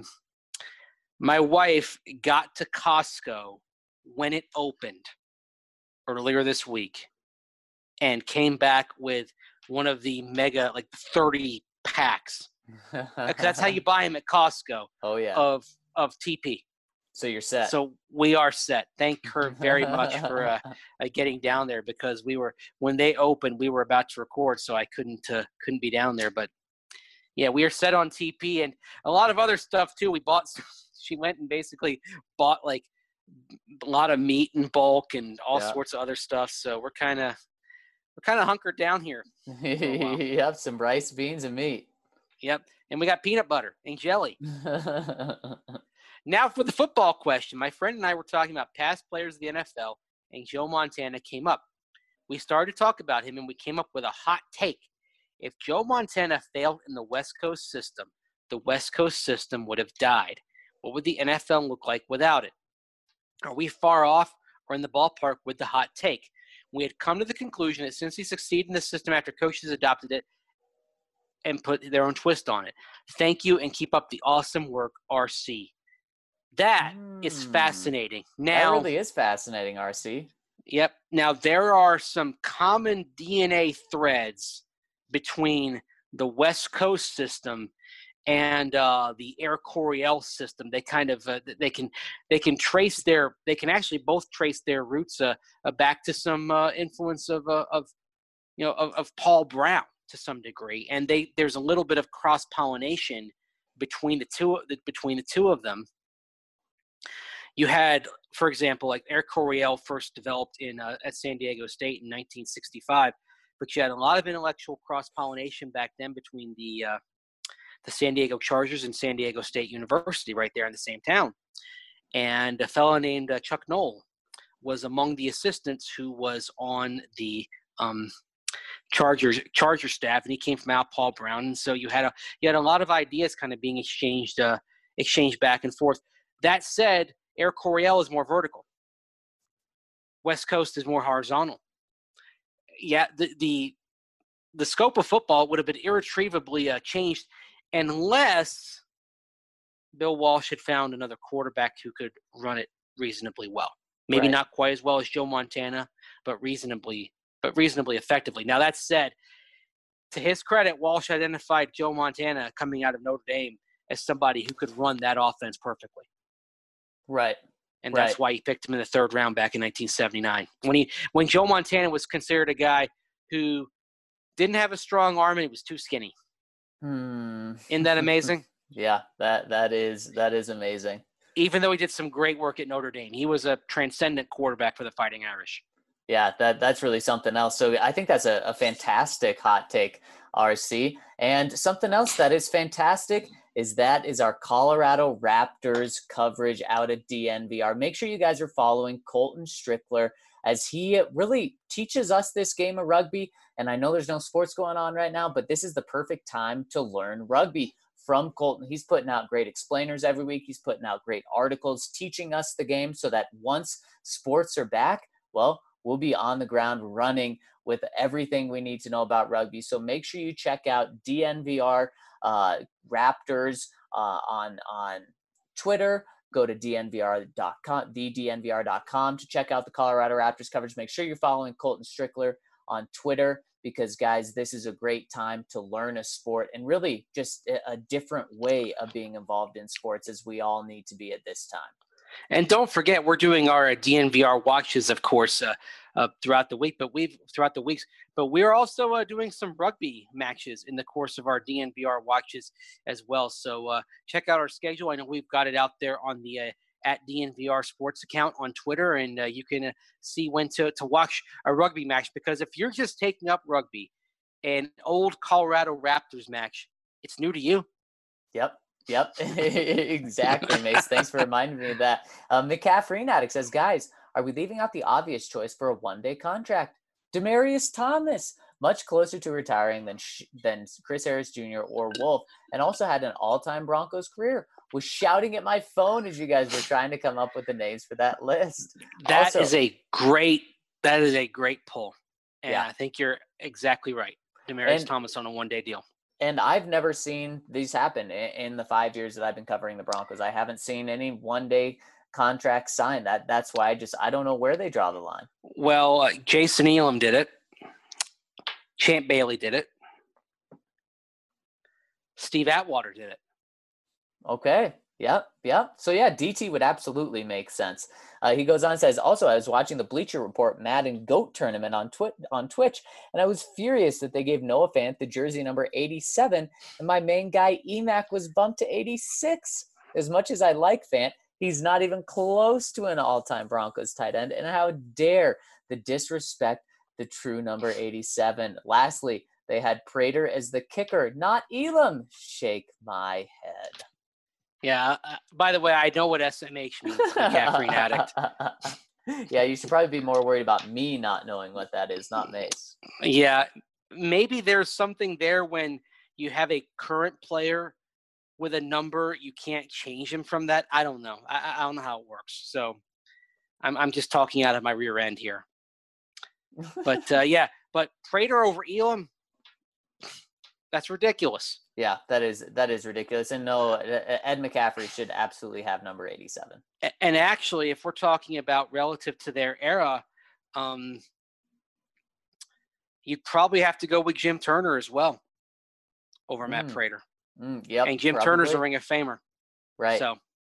My wife got to Costco when it opened earlier this week and came back with one of the mega, like 30 packs. That's how you buy them at Costco. Oh, yeah. Of TP. So you're set. So we are set. Thank her very much for getting down there, because when they opened, we were about to record, so I couldn't be down there. But yeah, we are set on TP and a lot of other stuff too. She went and basically bought like a lot of meat in bulk and all sorts of other stuff. So we're kind of hunkered down here. Yep, some rice, beans, and meat. Yep, and we got peanut butter and jelly. Now for the football question. My friend and I were talking about past players of the NFL, and Joe Montana came up. We started to talk about him, and we came up with a hot take. If Joe Montana failed in the West Coast system, the West Coast system would have died. What would the NFL look like without it? Are we far off or in the ballpark with the hot take? We had come to the conclusion that since he succeeded in the system after coaches adopted it and put their own twist on it. Thank you, and keep up the awesome work, RC. That is fascinating. Now, that really is fascinating, RC. Yep. Now, there are some common DNA threads between the West Coast system and the Air Coryell system. They kind of they can actually both trace their roots back to some influence of Paul Brown to some degree, and there's a little bit of cross pollination between the two of them. You had, for example, like Air Coryell first developed at San Diego State in 1965, but you had a lot of intellectual cross-pollination back then between the San Diego Chargers and San Diego State University right there in the same town. And a fellow named Chuck Noll was among the assistants who was on the Charger staff, and he came from out Paul Brown. And so you had a lot of ideas kind of being exchanged back and forth. That said, Air Coryell is more vertical. West Coast is more horizontal. Yeah, the scope of football would have been irretrievably changed unless Bill Walsh had found another quarterback who could run it reasonably well. Maybe not quite as well as Joe Montana, but reasonably effectively. Now, that said, to his credit, Walsh identified Joe Montana coming out of Notre Dame as somebody who could run that offense perfectly. Right. And that's why he picked him in the 3rd round back in 1979. When Joe Montana was considered a guy who didn't have a strong arm and he was too skinny. Isn't that amazing? Yeah, that is amazing. Even though he did some great work at Notre Dame, he was a transcendent quarterback for the Fighting Irish. Yeah, that's really something else. So I think that's a fantastic hot take, RC. And something else that is fantastic is our Colorado Raptors coverage out at DNVR. Make sure you guys are following Colton Strickler as he really teaches us this game of rugby. And I know there's no sports going on right now, but this is the perfect time to learn rugby from Colton. He's putting out great explainers every week. He's putting out great articles teaching us the game so that once sports are back, well, we'll be on the ground running with everything we need to know about rugby. So make sure you check out DNVR Raptors on Twitter. Go to dnvr.com, thednvr.com to check out the Colorado Raptors coverage. Make sure you're following Colton Strickler on Twitter because, guys, this is a great time to learn a sport and really just a different way of being involved in sports as we all need to be at this time. And don't forget, we're doing our DNVR watches, of course, throughout the week. But we're also doing some rugby matches in the course of our DNVR watches as well. So check out our schedule. I know we've got it out there on the at DNVR Sports account on Twitter, and you can see when to watch a rugby match. Because if you're just taking up rugby, an old Colorado Raptors match, it's new to you. Yep, exactly, Mace. Thanks for reminding me of that. McCaffrey Addict says, guys, are we leaving out the obvious choice for a one-day contract? Demaryius Thomas, much closer to retiring than Chris Harris Jr. or Wolf, and also had an all-time Broncos career. Was shouting at my phone as you guys were trying to come up with the names for that list. That is a great pull. And yeah. I think you're exactly right. Demaryius Thomas on a one-day deal. And I've never seen these happen in the 5 years that I've been covering the Broncos. I haven't seen any one-day contract signed. That's why I don't know where they draw the line. Well, Jason Elam did it. Champ Bailey did it. Steve Atwater did it. Okay. Yep. So, yeah, DT would absolutely make sense. He goes on and says, also, I was watching the Bleacher Report Madden GOAT tournament on Twitch, and I was furious that they gave Noah Fant the jersey number 87, and my main guy, Emac, was bumped to 86. As much as I like Fant, he's not even close to an all-time Broncos tight end, and how dare the disrespect the true number 87. Lastly, they had Prater as the kicker, not Elam. Shake my head. Yeah. By the way, I know what SMH means, McCaffrey Addict. Yeah, you should probably be more worried about me not knowing what that is, not Mace. Yeah, maybe there's something there when you have a current player with a number, you can't change him from that. I don't know. I don't know how it works. So I'm just talking out of my rear end here. But yeah, but Prater over Elam, that's ridiculous. Yeah, that is ridiculous. And no, Ed McCaffrey should absolutely have number 87. And actually, if we're talking about relative to their era, you'd probably have to go with Jim Turner as well over Matt Prater. Yep, and Jim Turner's a Ring of Famer. Right.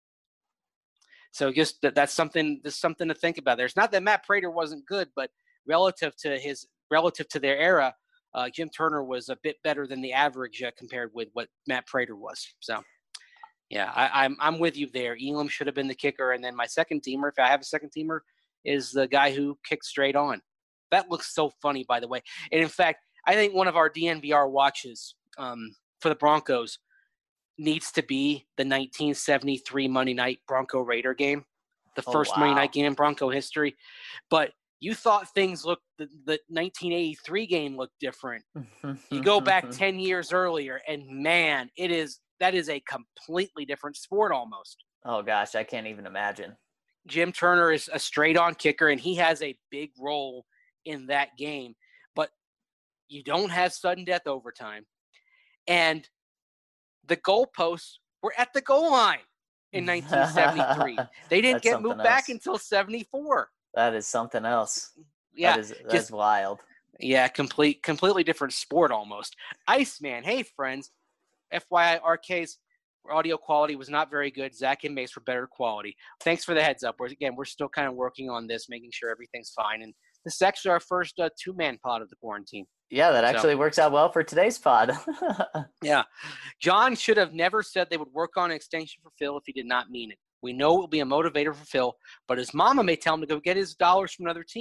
So just that's something to think about. There's not that Matt Prater wasn't good, but relative to their era, Jim Turner was a bit better than the average compared with what Matt Prater was. So, yeah, I'm with you there. Elam should have been the kicker, and then my second teamer, if I have a second teamer, is the guy who kicked straight on. That looks so funny, by the way. And in fact, I think one of our DNVR watches for the Broncos needs to be the 1973 Monday night Bronco Raider game, the first Monday night game in Bronco history. But you thought things looked – the 1983 game looked different. You go back 10 years earlier, and, man, that is a completely different sport almost. Oh, gosh, I can't even imagine. Jim Turner is a straight-on kicker, and he has a big role in that game. But you don't have sudden death overtime. And the goalposts were at the goal line in 1973. They didn't get moved back until 74. That is something else. Yeah. That's wild. Yeah, completely different sport almost. Iceman, hey, friends. FYI, RK's audio quality was not very good. Zach and Mace were better quality. Thanks for the heads up. We're still kind of working on this, making sure everything's fine. And this is actually our first two-man pod of the quarantine. Yeah, that actually works out well for today's pod. Yeah. John should have never said they would work on an extension for Phil if he did not mean it. We know it will be a motivator for Phil, but his mama may tell him to go get his dollars from another team.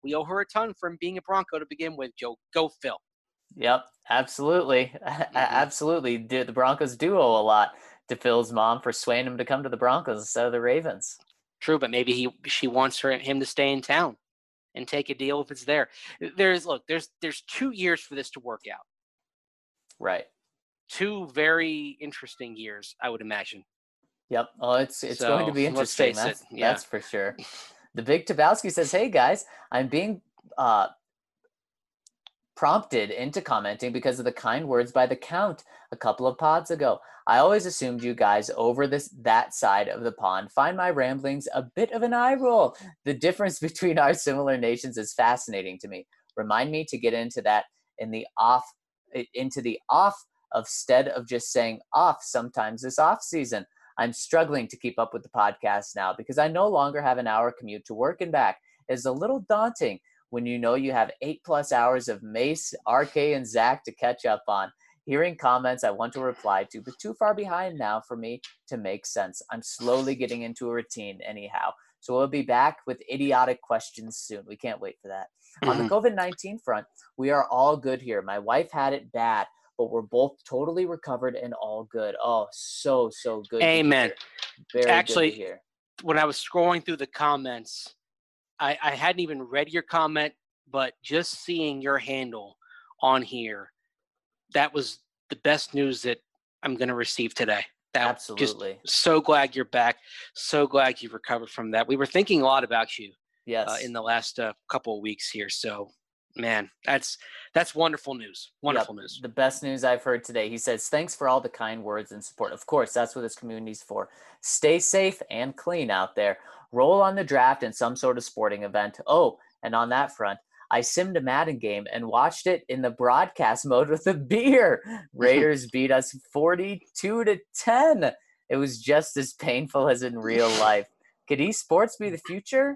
We owe her a ton from being a Bronco to begin with, Joe. Go Phil. Yep, absolutely. Absolutely. The Broncos do owe a lot to Phil's mom for swaying him to come to the Broncos instead of the Ravens. True, but maybe she wants him to stay in town and take a deal if it's there. There's 2 years for this to work out. Right. 2 very interesting years, I would imagine. Yep. Oh, it's going to be interesting. That's for sure. The Big Tabowski says, "Hey guys, I'm being prompted into commenting because of the kind words by the Count a couple of pods ago. I always assumed you guys over that side of the pond find my ramblings a bit of an eye roll. The difference between our similar nations is fascinating to me. Remind me to get into that into the off of stead of just saying off sometimes this off season. I'm struggling to keep up with the podcast now because I no longer have an hour commute to work and back. It's a little daunting when you know you have 8+ hours of Mace, RK, and Zach to catch up on. Hearing comments I want to reply to, but too far behind now for me to make sense. I'm slowly getting into a routine anyhow. So we'll be back with idiotic questions soon. We can't wait for that. On the COVID-19 front, we are all good here. My wife had it bad, but we're both totally recovered and all good. Oh, so good. Amen. Very Actually, good to hear. When I was scrolling through the comments, I hadn't even read your comment, but just seeing your handle on here, that was the best news that I'm going to receive today. Absolutely. Just so glad you're back. So glad you've recovered from that. We were thinking a lot about you in the last couple of weeks here. So, man, that's wonderful news. Wonderful news. The best news I've heard today. He says, thanks for all the kind words and support. Of course, that's what this community's for. Stay safe and clean out there. Roll on the draft in some sort of sporting event. Oh, and on that front, I simmed a Madden game and watched it in the broadcast mode with a beer. Raiders beat us 42-10. It was just as painful as in real life. Could esports be the future?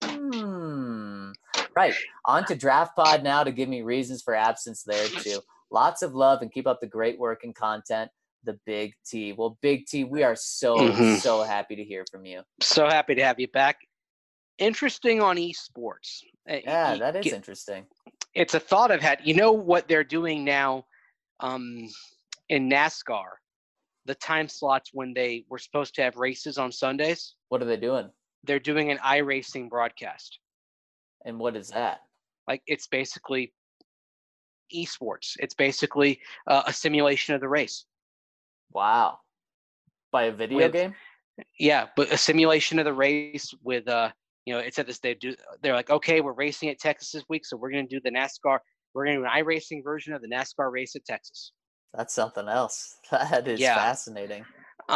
Right. On to Draft Pod now to give me reasons for absence there too. Lots of love and keep up the great work and content. The Big T. Well, Big T, we are so happy to hear from you. So happy to have you back. Interesting on esports. Yeah, that is interesting. It's a thought I've had. You know what they're doing now in NASCAR? The time slots when they were supposed to have races on Sundays. What are they doing? They're doing an iRacing broadcast. And what is that? Like, it's basically esports. It's basically a simulation of the race. Wow. By a video game? Yeah, but a simulation of the race with it said this. They're like, okay, we're racing at Texas this week, so we're going to do the NASCAR. We're going to do an iRacing version of the NASCAR race at Texas. That's something else. That is fascinating.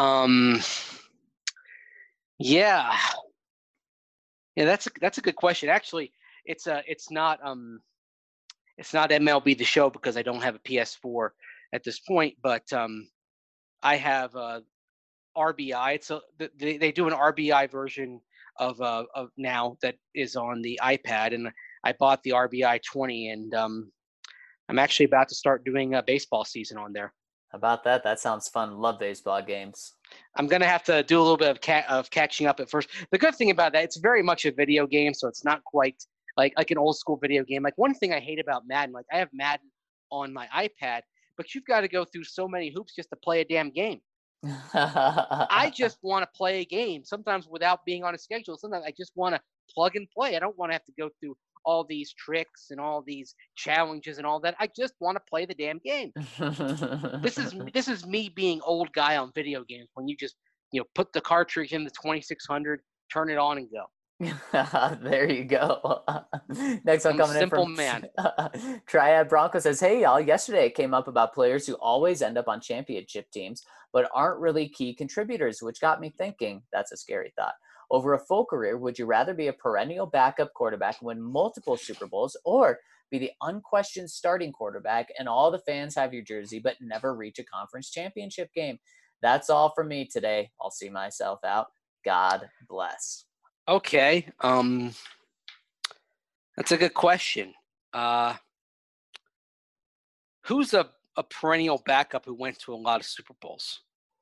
Yeah, that's a good question. Actually, it's not MLB The Show because I don't have a PS4 at this point, but I have RBI. They do an RBI version of now that is on the iPad, and I bought the RBI 20, and I'm actually about to start doing a baseball season on there. How about that? That sounds fun. Love baseball games. I'm going to have to do a little bit of catching up at first. The good thing about that, it's very much a video game, so it's not quite like an old school video game. Like, one thing I hate about Madden, like, I have Madden on my iPad, but you've got to go through so many hoops just to play a damn game. I just want to play a game, sometimes without being on a schedule. Sometimes I just want to plug and play. I don't want to have to go through all these tricks and all these challenges and all that. I just want to play the damn game. This is me being old guy on video games, when you just put the cartridge in the 2600, turn it on and go. There you go. Next one coming in from Simple man. Triad Bronco says, hey y'all, yesterday it came up about players who always end up on championship teams but aren't really key contributors, which got me thinking. That's a scary thought. Over a full career, would you rather be a perennial backup quarterback and win multiple Super Bowls, or be the unquestioned starting quarterback and all the fans have your jersey but never reach a conference championship game? That's all from me today. I'll see myself out. God bless. Okay. That's a good question. Who's a perennial backup who went to a lot of Super Bowls?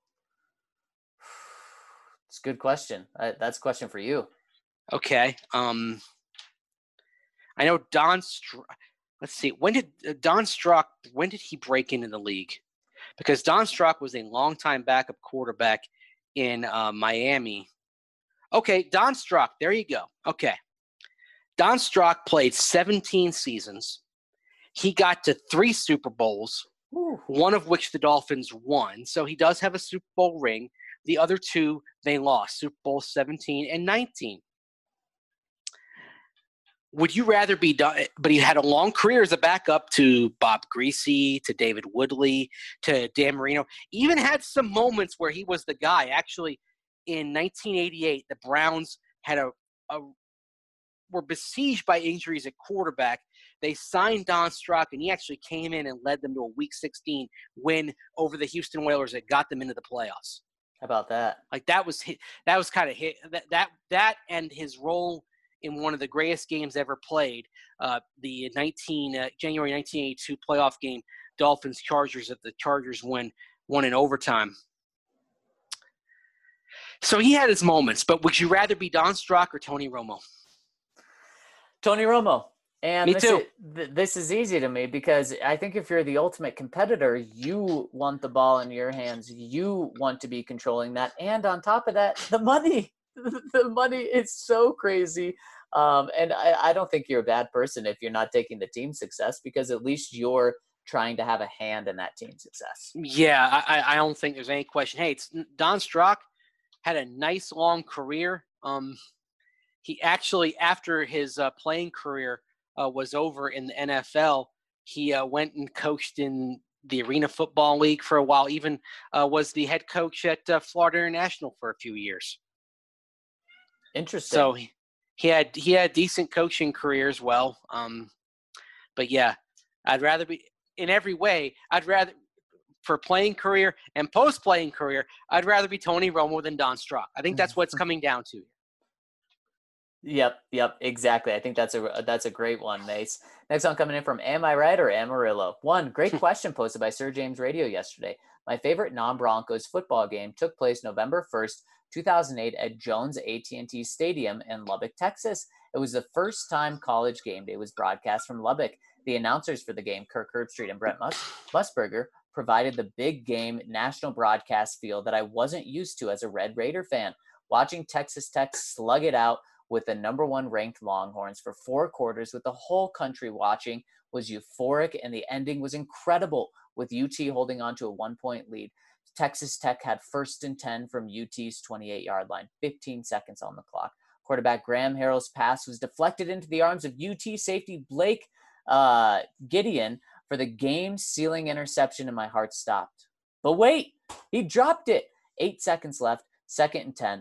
It's a good question. That's a question for you. Okay. I know let's see, when did he break into the league? Because Don Strock was a longtime backup quarterback in Miami. Okay, Don Strock, there you go. Okay. Don Strock played 17 seasons. He got to 3 Super Bowls, one of which the Dolphins won. So he does have a Super Bowl ring. The other 2, they lost, Super Bowl 17 and 19. Would you rather be done? But he had a long career as a backup to Bob Greasy, to David Woodley, to Dan Marino. Even had some moments where he was the guy. Actually, in 1988, the Browns had were besieged by injuries at quarterback. They signed Don Strock, and he actually came in and led them to a Week 16 win over the Houston Oilers that got them into the playoffs. How about that? Like that was kind of hit that and his role in one of the greatest games ever played, the January 1982 playoff game, Dolphins-Chargers, that the Chargers won in overtime. So he had his moments, but would you rather be Don Strock or Tony Romo? Tony Romo. And Me too. This is easy to me because I think if you're the ultimate competitor, you want the ball in your hands. You want to be controlling that. And on top of that, the money. The money is so crazy. And I don't think you're a bad person if you're not taking the team success, because at least you're trying to have a hand in that team success. Yeah, I don't think there's any question. Hey, Don Strock had a nice long career. He actually, after his playing career was over in the NFL, he went and coached in the Arena Football League for a while, even was the head coach at Florida International for a few years. Interesting. So he had decent coaching career as well. But yeah, I'd rather be in every way. For playing career and post-playing career, I'd rather be Tony Romo than Don Strock. I think that's what it's coming down to. Yep, exactly. I think that's a great one, Mace. Next one coming in from Am I Right or Amarillo? One, great question posted by Sir James Radio yesterday. My favorite non-Broncos football game took place November 1st, 2008 at Jones AT&T Stadium in Lubbock, Texas. It was the first time college game day was broadcast from Lubbock. The announcers for the game, Kirk Herbstreit and Brent Musburger, provided the big game national broadcast feel that I wasn't used to as a Red Raider fan. Watching Texas Tech slug it out with the number 1 ranked Longhorns for 4 quarters with the whole country watching was euphoric, and the ending was incredible with UT holding on to a 1-point lead. Texas Tech had 1st and 10 from UT's 28-yard line, 15 seconds on the clock. Quarterback Graham Harrell's pass was deflected into the arms of UT safety Blake Gideon for the game-sealing interception, and my heart stopped. But wait, he dropped it. 8 seconds left, second and 10.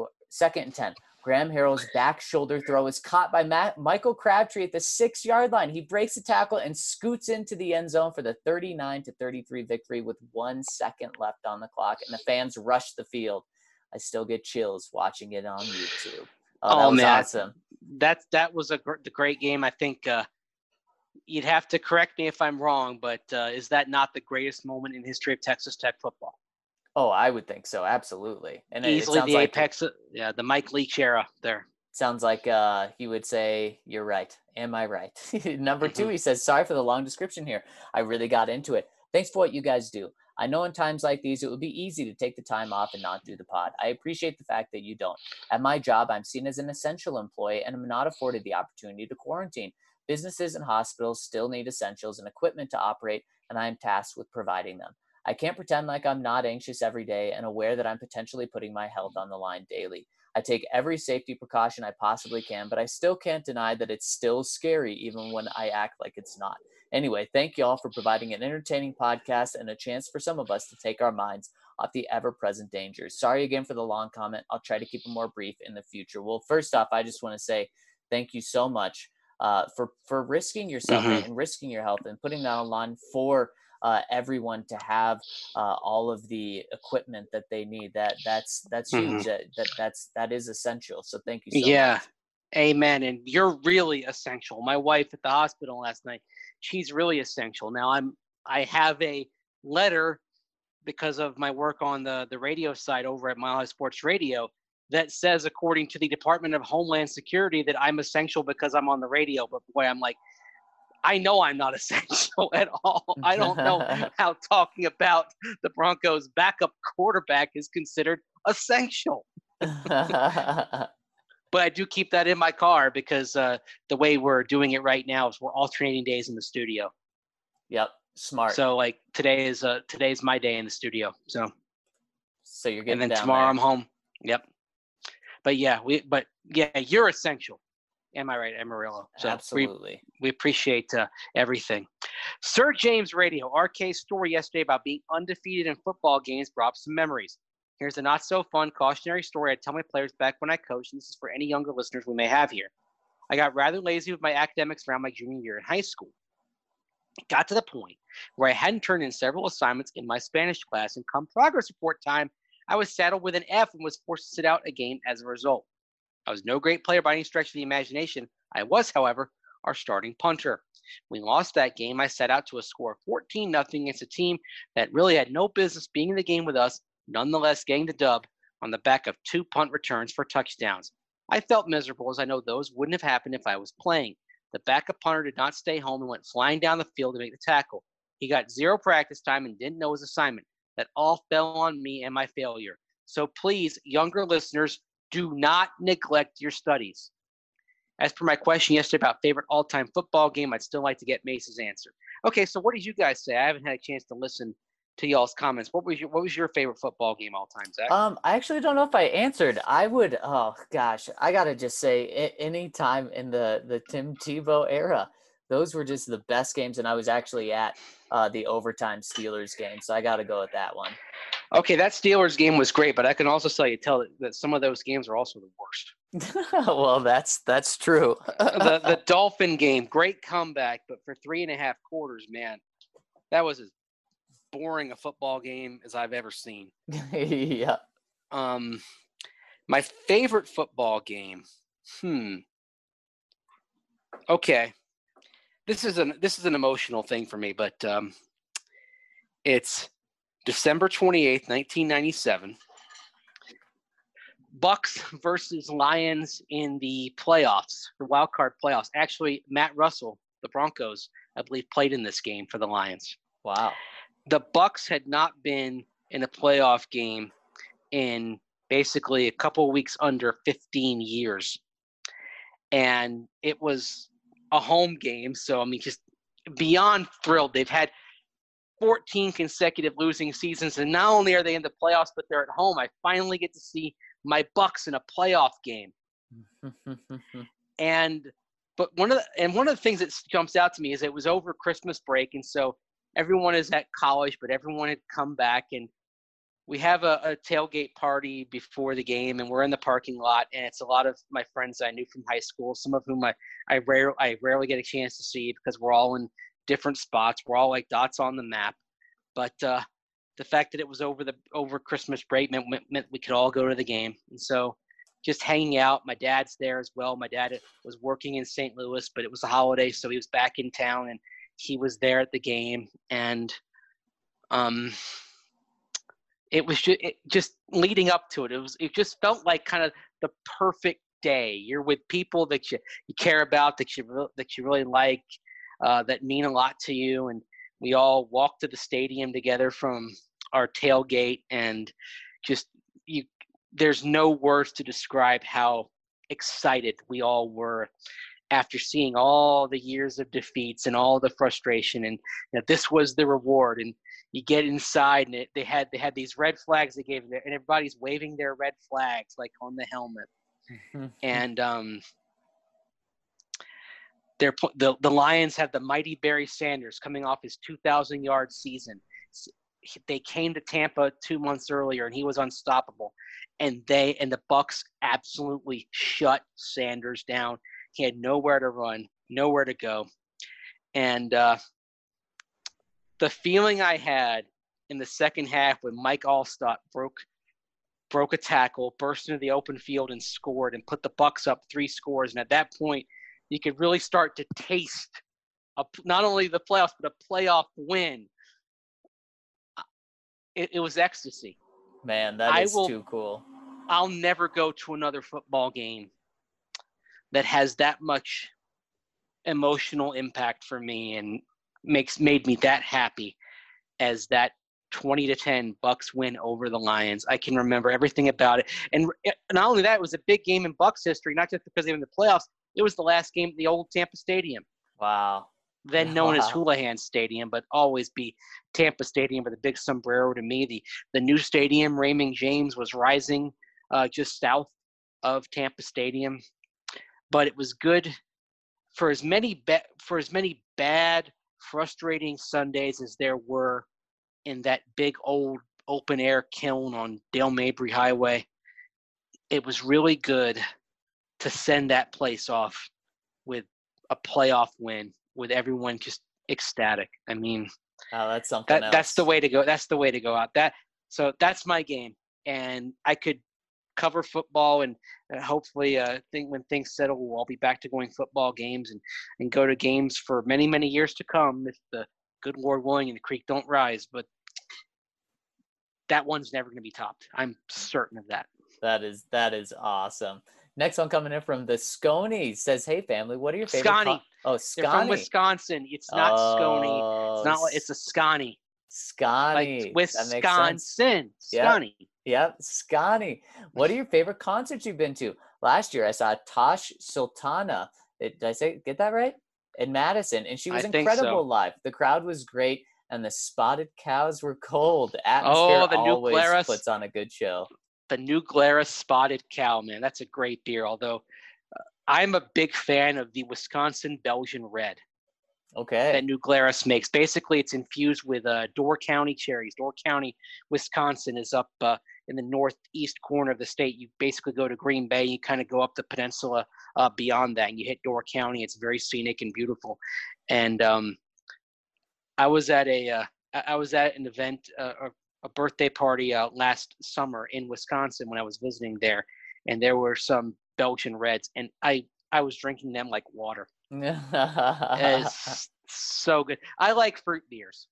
Graham Harrell's back shoulder throw is caught by Michael Crabtree at the 6-yard line. He breaks the tackle and scoots into the end zone for the 39-33 victory with 1 second left on the clock, and the fans rush the field. I still get chills watching it on YouTube. Oh, that was man. Awesome. That was a great game. I think you'd have to correct me if I'm wrong, but is that not the greatest moment in history of Texas Tech football? Oh, I would think so. Absolutely. And easily the like apex. The Mike Leach era there. Sounds like he would say, you're right. Am I right? Number 2, he says, sorry for the long description here. I really got into it. Thanks for what you guys do. I know in times like these, it would be easy to take the time off and not do the pod. I appreciate the fact that you don't. At my job, I'm seen as an essential employee and am not afforded the opportunity to quarantine. Businesses and hospitals still need essentials and equipment to operate, and I am tasked with providing them. I can't pretend like I'm not anxious every day and aware that I'm potentially putting my health on the line daily. I take every safety precaution I possibly can, but I still can't deny that it's still scary even when I act like it's not. Anyway, thank you all for providing an entertaining podcast and a chance for some of us to take our minds off the ever-present dangers. Sorry again for the long comment. I'll try to keep it more brief in the future. Well, first off, I just want to say thank you so much for risking yourself and risking your health and putting that on line for everyone to have all of the equipment that they need. That's huge. That is essential. So thank you so much. Amen. And you're really essential. My wife at the hospital last night, she's really essential. Now I have a letter because of my work on the radio side over at Mile High Sports Radio. that says, according to the Department of Homeland Security, that I'm essential because I'm on the radio. But boy, I'm like, I know I'm not essential at all. I don't know how talking about the Broncos' backup quarterback is considered essential. But I do keep that in my car because the way we're doing it right now is we're alternating days in the studio. Yep, smart. So like today's my day in the studio. So you're getting and then down tomorrow there. I'm home. Yep. But yeah, you're essential. Am I right, Amarillo? So absolutely. We appreciate everything. Sir James Radio, RK's story yesterday about being undefeated in football games brought up some memories. Here's a not-so-fun cautionary story I tell my players back when I coached, and this is for any younger listeners we may have here. I got rather lazy with my academics around my junior year in high school. It got to the point where I hadn't turned in several assignments in my Spanish class, and come progress report time, I was saddled with an F and was forced to sit out a game as a result. I was no great player by any stretch of the imagination. I was, however, our starting punter. We lost that game. I set out to a score of 14-0 against a team that really had no business being in the game with us, nonetheless getting the dub on the back of 2 punt returns for touchdowns. I felt miserable, as I know those wouldn't have happened if I was playing. The backup punter did not stay home and went flying down the field to make the tackle. He got 0 practice time and didn't know his assignment. That all fell on me and my failure. So please, younger listeners, do not neglect your studies. As per my question yesterday about favorite all-time football game, I'd still like to get Mace's answer. Okay, so what did you guys say? I haven't had a chance to listen to y'all's comments. What was your favorite football game all time, Zach? I actually don't know if I answered. I would. Oh gosh, I gotta just say, any time in the Tim Tebow era, those were just the best games, and I was actually at the overtime Steelers game, so I got to go with that one. Okay, that Steelers game was great, but I can also tell that some of those games are also the worst. Well, that's true. the Dolphin game, great comeback, but for 3.5 quarters, man, that was as boring a football game as I've ever seen. Yeah. My favorite football game. Okay. This is an emotional thing for me, but it's December 28th, 1997. Bucks versus Lions in the playoffs, the wild card playoffs. Actually, Matt Russell, the Broncos, I believe, played in this game for the Lions. Wow. The Bucks had not been in a playoff game in basically a couple weeks under 15 years. And it was a home game. So, I mean, just beyond thrilled. They've had 14 consecutive losing seasons. And not only are they in the playoffs, but they're at home. I finally get to see my Bucks in a playoff game. But one of the things that jumps out to me is it was over Christmas break. And so everyone is at college, but everyone had come back, and we have a tailgate party before the game, and we're in the parking lot, and it's a lot of my friends I knew from high school, some of whom I rarely get a chance to see because we're all in different spots. We're all like dots on the map. But the fact that it was over Christmas break meant we could all go to the game. And so just hanging out. My dad's there as well. My dad was working in St. Louis, but it was a holiday, so he was back in town, and he was there at the game. And it was just leading up to it. It just felt like kind of the perfect day. You're with people that you care about, that you really like, that mean a lot to you. And we all walked to the stadium together from our tailgate, and there's no words to describe how excited we all were after seeing all the years of defeats and all the frustration, and this was the reward. And you get inside, and they had these red flags they gave there, and everybody's waving their red flags like on the helmet. And the Lions had the mighty Barry Sanders coming off his 2,000-yard season. They came to Tampa 2 months earlier, and he was unstoppable. And the Bucks absolutely shut Sanders down. He had nowhere to run, nowhere to go. And the feeling I had in the second half when Mike Allstott broke a tackle, burst into the open field and scored, and put the Bucks up 3 scores. And at that point, you could really start to taste not only the playoffs, but a playoff win. It was ecstasy. Man, that is too cool. I'll never go to another football game that has that much emotional impact for me and made me that happy as that 20-10 Bucks win over the Lions. I can remember everything about it. And not only that, it was a big game in Bucks history, not just because they were in the playoffs. It was the last game at the old Tampa Stadium. Wow. Then known as Houlihan Stadium, but always be Tampa Stadium with a big sombrero to me. The new stadium, Raymond James, was rising just south of Tampa Stadium. But it was good for as many bad, frustrating Sundays as there were in that big old open air kiln on Dale Mabry Highway. It was really good to send that place off with a playoff win, with everyone just ecstatic. I mean, that's something else. That's the way to go. That's the way to go out. So that's my game, and I could cover football, and hopefully, when things settle, we'll all be back to going football games and go to games for many, many years to come, if the good Lord willing and the creek don't rise. But that one's never going to be topped. I'm certain of that. That is awesome. Next one coming in from the Scony says, "Hey family, what are your favorite?" Scotty. Scotty. They're from Wisconsin. It's not Scony. It's not. It's a Scotty. Scotty. Like Wisconsin. Scotty. Yep, Scotty. What are your favorite concerts you've been to? Last year, I saw Tosh Sultana. Did I get that right? In Madison, and she was incredible live. The crowd was great, and the Spotted Cows were cold. Atmosphere always puts on a good show. The New Glarus Spotted Cow, man, that's a great beer. Although I'm a big fan of the Wisconsin Belgian Red. Okay. That New Glarus makes. Basically, it's infused with Door County cherries. Door County, Wisconsin is up in the northeast corner of the state. You basically go to Green Bay. You kind of go up the peninsula beyond that, and you hit Door County. It's very scenic and beautiful. And I was at an event, a birthday party last summer in Wisconsin when I was visiting there, and there were some Belgian Reds, and I was drinking them like water. It's so good. I like fruit beers.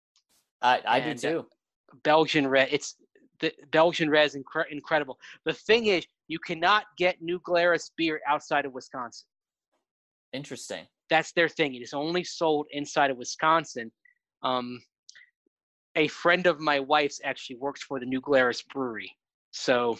I do too. Belgian Red. The Belgian Red is incredible. The thing is, you cannot get New Glarus beer outside of Wisconsin. Interesting. That's their thing. It is only sold inside of Wisconsin. A friend of my wife's actually works for the New Glarus Brewery, so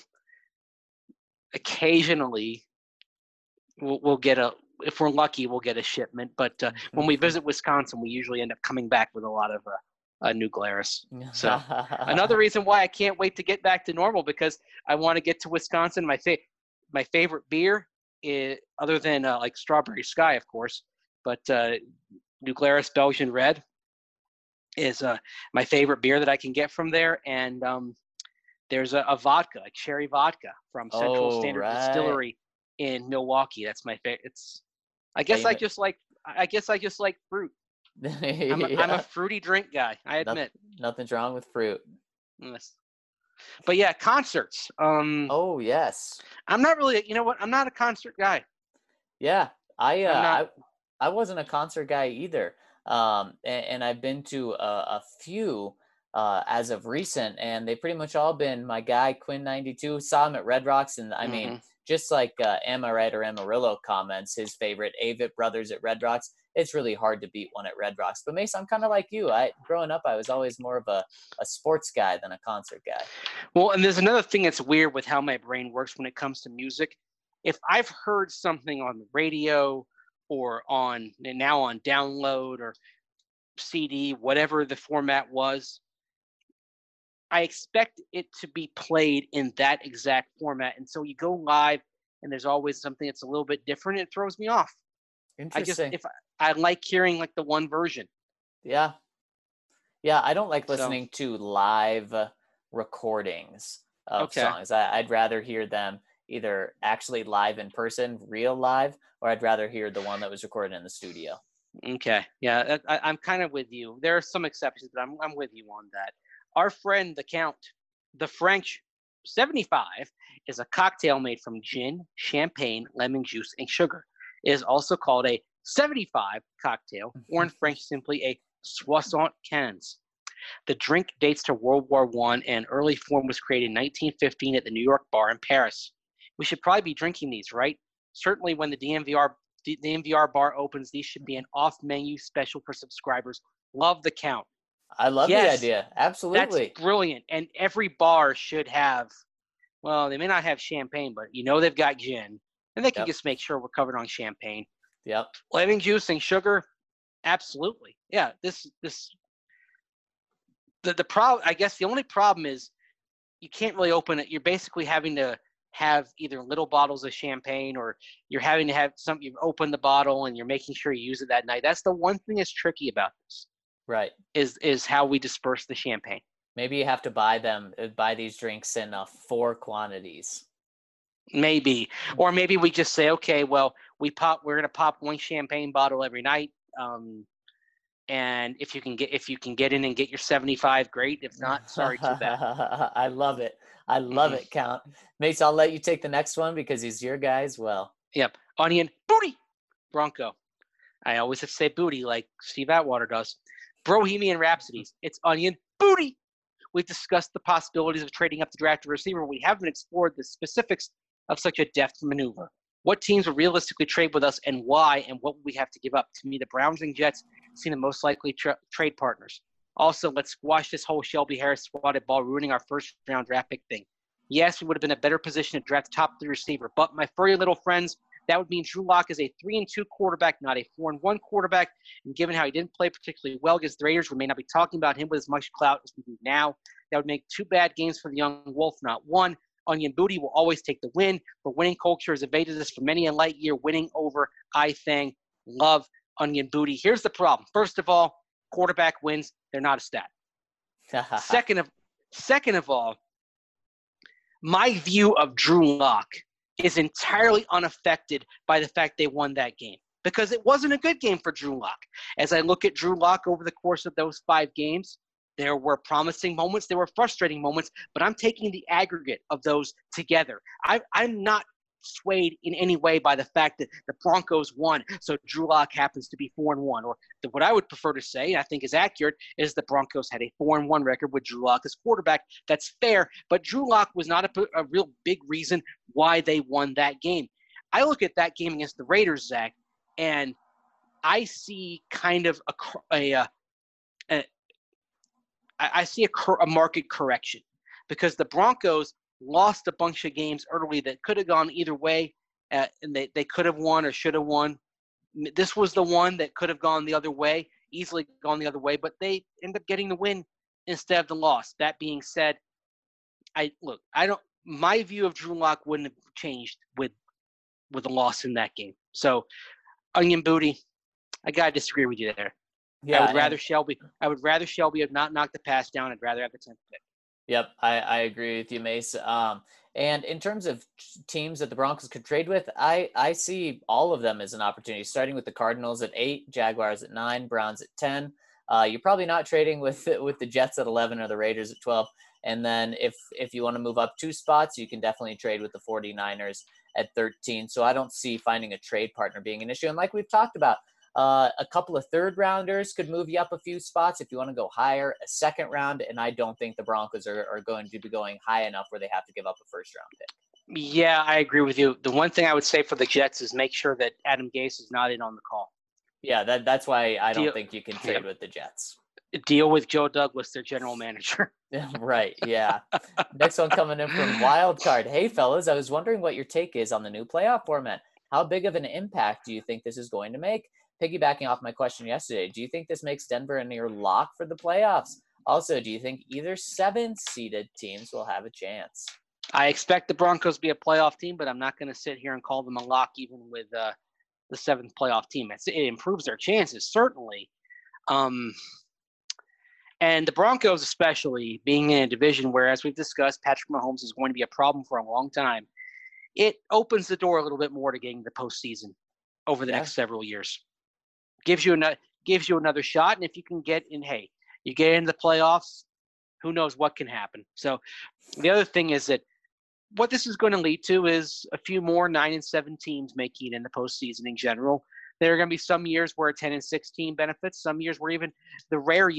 occasionally we'll get if we're lucky, we'll get a shipment. But when we visit Wisconsin, we usually end up coming back with a lot of New Glarus. So another reason why I can't wait to get back to normal, because I want to get to Wisconsin. My favorite beer is, other than like Strawberry Sky, of course, but New Glarus Belgian Red is my favorite beer that I can get from there. And there's a vodka, a cherry vodka from Central Standard Distillery in Milwaukee. That's my favorite. I guess I just like fruit. I'm a fruity drink guy, I admit. Nothing's wrong with fruit. Yes. But yeah, concerts. Oh yes. I'm not really. You know what? I'm not a concert guy. Yeah, I wasn't a concert guy either. And I've been to a few as of recent, and they've pretty much all been my guy Quinn 92. Saw him at Red Rocks, and I mean, just like Amaret or Amarillo comments, his favorite Avett Brothers at Red Rocks. It's really hard to beat one at Red Rocks. But Mace, I'm kind of like you. Growing up, I was always more of a sports guy than a concert guy. Well, and there's another thing that's weird with how my brain works when it comes to music. If I've heard something on the radio or now on download or CD, whatever the format was, I expect it to be played in that exact format. And so you go live and there's always something that's a little bit different. It throws me off. Interesting. I like hearing like the one version. Yeah. Yeah. I don't like listening to live recordings of songs. I'd rather hear them either actually live in person, real live, or I'd rather hear the one that was recorded in the studio. Okay. Yeah. I'm kind of with you. There are some exceptions, but I'm with you on that. Our friend, the Count, the French 75, is a cocktail made from gin, champagne, lemon juice, and sugar. It is also called a 75 cocktail, or in French, simply a 75. The drink dates to World War I, and early form was created in 1915 at the New York Bar in Paris. We should probably be drinking these, right? Certainly when the DNVR bar opens, these should be an off-menu special for subscribers. Love the count. I love the idea. Absolutely. That's brilliant. And every bar should have, well, they may not have champagne, but they've got gin. And they can just make sure we're covered on champagne. Yep. Lemon juice and sugar, absolutely. Yeah, the problem, I guess the only problem is you can't really open it. You're basically having to have either little bottles of champagne, or you're having to have you've opened the bottle and you're making sure you use it that night. That's the one thing that's tricky about this. Right. Is how we disperse the champagne. Maybe you have to buy these drinks in 4 quantities. Maybe. Or maybe we just say, okay, well, we're going to pop 1 champagne bottle every night. And if you can get in and get your 75, great. If not, sorry, too bad. I love it. I love it, Count. Mace, I'll let you take the next one because he's your guy as well. Yep. Onion, booty, Bronco. I always have to say booty like Steve Atwater does. Bohemian Rhapsodies. It's onion, booty. We've discussed the possibilities of trading up to draft a receiver. We haven't explored the specifics of such a deft maneuver. What teams would realistically trade with us and why, and what would we have to give up? To me, the Browns and Jets seem the most likely trade partners. Also, let's squash this whole Shelby Harris swatted ball ruining our first-round draft pick thing. Yes, we would have been in a better position to draft top 3 receiver, but my furry little friends, that would mean Drew Lock is a 3-2 quarterback, not a 4-1 quarterback. And given how he didn't play particularly well against the Raiders, we may not be talking about him with as much clout as we do now. That would make 2 bad games for the young Wolf, not 1. Onion Booty will always take the win, but winning culture has evaded us for many a light year. Winning over I-Thang. Love Onion Booty. Here's the problem. First of all, quarterback wins. They're not a stat. Second of all, my view of Drew Lock is entirely unaffected by the fact they won that game, because it wasn't a good game for Drew Lock. As I look at Drew Lock over the course of those 5 games, there were promising moments, there were frustrating moments, but I'm taking the aggregate of those together. I'm not swayed in any way by the fact that the Broncos won, so Drew Lock happens to be 4-1. Or what I would prefer to say, and I think is accurate, is the Broncos had a 4-1 record with Drew Lock as quarterback. That's fair, but Drew Lock was not a real big reason why they won that game. I look at that game against the Raiders, Zach, and I see kind of a market correction, because the Broncos lost a bunch of games early that could have gone either way, and they could have won or should have won. This was the one that could have gone the other way, easily gone the other way, but they end up getting the win instead of the loss. That being said, my view of Drew Lock wouldn't have changed with a loss in that game. So, Onion Booty, I gotta disagree with you there. Yeah, I would rather Shelby have not knocked the pass down. I'd rather have the 10th pick. Yep, I agree with you, Mace. And in terms of teams that the Broncos could trade with, I see all of them as an opportunity, starting with the Cardinals at 8, Jaguars at 9, Browns at 10. You're probably not trading with the Jets at 11 or the Raiders at 12. And then if you want to move up 2 spots, you can definitely trade with the 49ers at 13. So I don't see finding a trade partner being an issue. And like we've talked about, a couple of 3rd rounders could move you up a few spots if you want to go higher, a 2nd round, and I don't think the Broncos are going to be going high enough where they have to give up a 1st round pick. Yeah, I agree with you. The one thing I would say for the Jets is make sure that Adam Gase is not in on the call. Yeah, that's why I don't think you can trade with the Jets. Deal with Joe Douglas, their general manager. Right, yeah. Next one coming in from Wildcard. Hey, fellas, I was wondering what your take is on the new playoff format. How big of an impact do you think this is going to make? Piggybacking off my question yesterday, do you think this makes Denver a near lock for the playoffs? Also, do you think either 7-seeded teams will have a chance? I expect the Broncos to be a playoff team, but I'm not going to sit here and call them a lock even with the 7th playoff team. It improves their chances, certainly. And the Broncos especially, being in a division where, as we've discussed, Patrick Mahomes is going to be a problem for a long time, it opens the door a little bit more to getting the postseason over the next several years. Gives you another shot, and if you can get in, you get into the playoffs, who knows what can happen. So the other thing is that what this is going to lead to is a few more 9-7 teams making it in the postseason in general. There are going to be some years where a 10-6 team benefits, some years where even the rare year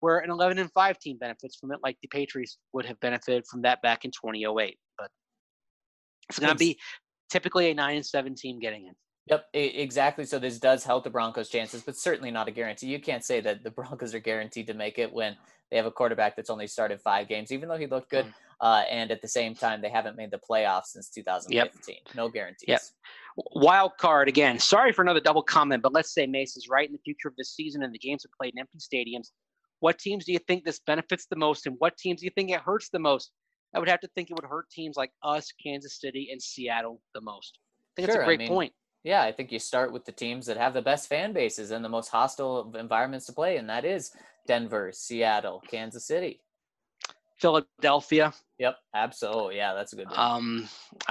where an 11-5 team benefits from it, like the Patriots would have benefited from that back in 2008. But it's going to be typically a 9-7 team getting in. Yep, exactly. So this does help the Broncos' chances, but certainly not a guarantee. You can't say that the Broncos are guaranteed to make it when they have a quarterback that's only started 5 games, even though he looked good. And at the same time, they haven't made the playoffs since 2015. Yep. No guarantees. Yep. Wild card again. Sorry for another double comment, but let's say Mace is right in the future of this season and the games are played in empty stadiums. What teams do you think this benefits the most, and what teams do you think it hurts the most? I would have to think it would hurt teams like us, Kansas City, and Seattle the most. I think it's a great point. Yeah, I think you start with the teams that have the best fan bases and the most hostile environments to play, and that is Denver, Seattle, Kansas City. Philadelphia. Yep, absolutely. Yeah, that's a good one.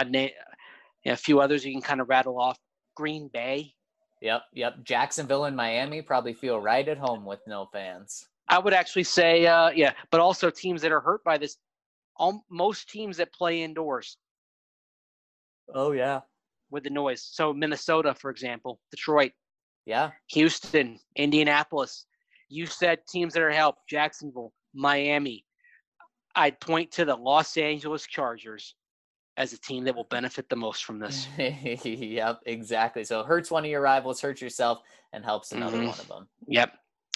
A few others you can kind of rattle off. Green Bay. Yep. Jacksonville and Miami probably feel right at home with no fans. I would actually say, but also teams that are hurt by this. Most teams that play indoors. Oh, yeah. With the noise. So Minnesota, for example, Detroit. Yeah. Houston, Indianapolis. You said teams that are helped. Jacksonville, Miami. I'd point to the Los Angeles Chargers as a team that will benefit the most from this. Yep, exactly. So it hurts one of your rivals, hurts yourself, and helps another one of them. Yep.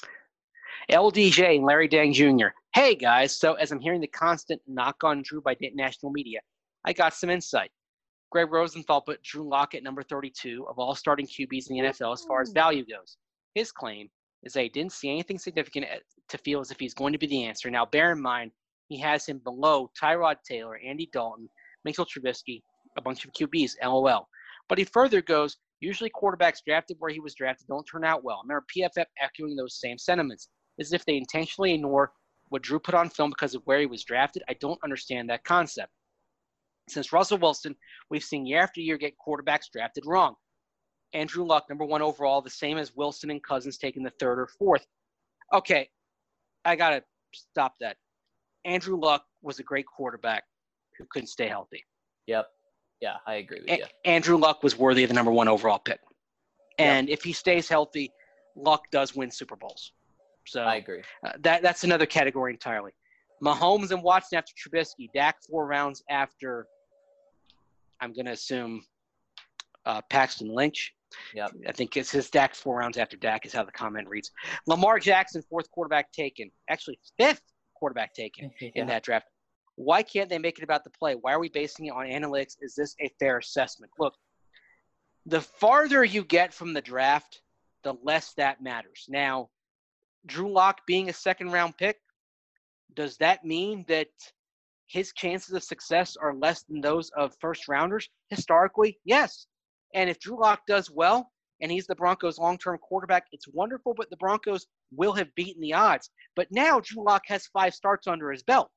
LDJ and Larry Dang Jr. Hey, guys. So as I'm hearing the constant knock on Drew by national media, I got some insight. Greg Rosenthal put Drew Lock at number 32 of all starting QBs in the NFL as far as value goes. His claim is that he didn't see anything significant to feel as if he's going to be the answer. Now, bear in mind, he has him below Tyrod Taylor, Andy Dalton, Mitchell Trubisky, a bunch of QBs, LOL. But he further goes, usually quarterbacks drafted where he was drafted don't turn out well. I remember PFF echoing those same sentiments, as if they intentionally ignore what Drew put on film because of where he was drafted. I don't understand that concept. Since Russell Wilson, we've seen year after year get quarterbacks drafted wrong. Andrew Luck, number 1 overall, the same as Wilson and Cousins taking the 3rd or 4th. Okay, I got to stop that. Andrew Luck was a great quarterback who couldn't stay healthy. Yep. Yeah, I agree with you. Andrew Luck was worthy of the number 1 overall pick. And if he stays healthy, Luck does win Super Bowls. So I agree. That's another category entirely. Mahomes and Watson after Trubisky. Dak 4 rounds after, I'm going to assume, Paxton Lynch. Yep. I think it says Dak 4 rounds after Dak is how the comment reads. Lamar Jackson, 4th quarterback taken. Actually, 5th quarterback taken in that draft. Why can't they make it about the play? Why are we basing it on analytics? Is this a fair assessment? Look, the farther you get from the draft, the less that matters. Now, Drew Lock being a 2nd-round pick, does that mean that his chances of success are less than those of first-rounders? Historically, yes. And if Drew Lock does well and he's the Broncos' long-term quarterback, it's wonderful, but the Broncos will have beaten the odds. But now Drew Lock has 5 starts under his belt.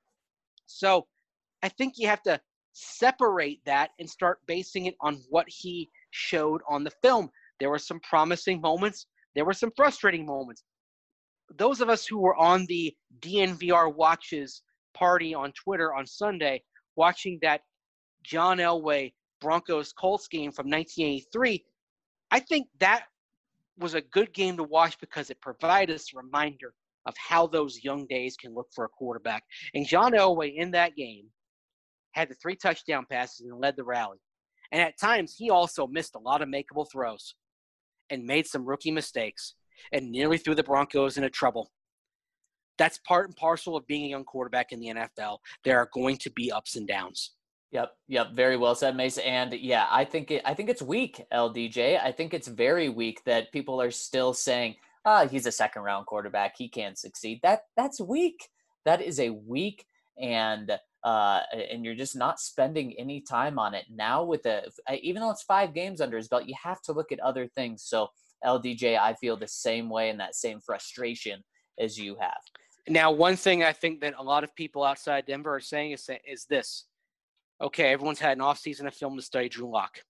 So I think you have to separate that and start basing it on what he showed on the film. There were some promising moments. There were some frustrating moments. Those of us who were on the DNVR Watches party on Twitter on Sunday, watching that John Elway Broncos-Colts game from 1983, I think that was a good game to watch because it provided us a reminder of how those young days can look for a quarterback. And John Elway in that game had the 3 touchdown passes and led the rally. And at times, he also missed a lot of makeable throws and made some rookie mistakes and nearly threw the Broncos into trouble. That's part and parcel of being a young quarterback in the NFL. There are going to be ups and downs. Yep. Very well said, Mace. And yeah, I think it's weak, LDJ. I think it's very weak that people are still saying, he's a 2nd-round quarterback, he can't succeed. That's weak. That is a weak, and you're just not spending any time on it now. Even though it's 5 games under his belt, you have to look at other things. So LDJ, I feel the same way and that same frustration as you have. Now, one thing I think that a lot of people outside Denver are saying is this. Okay, everyone's had an offseason of film to study Drew Lock.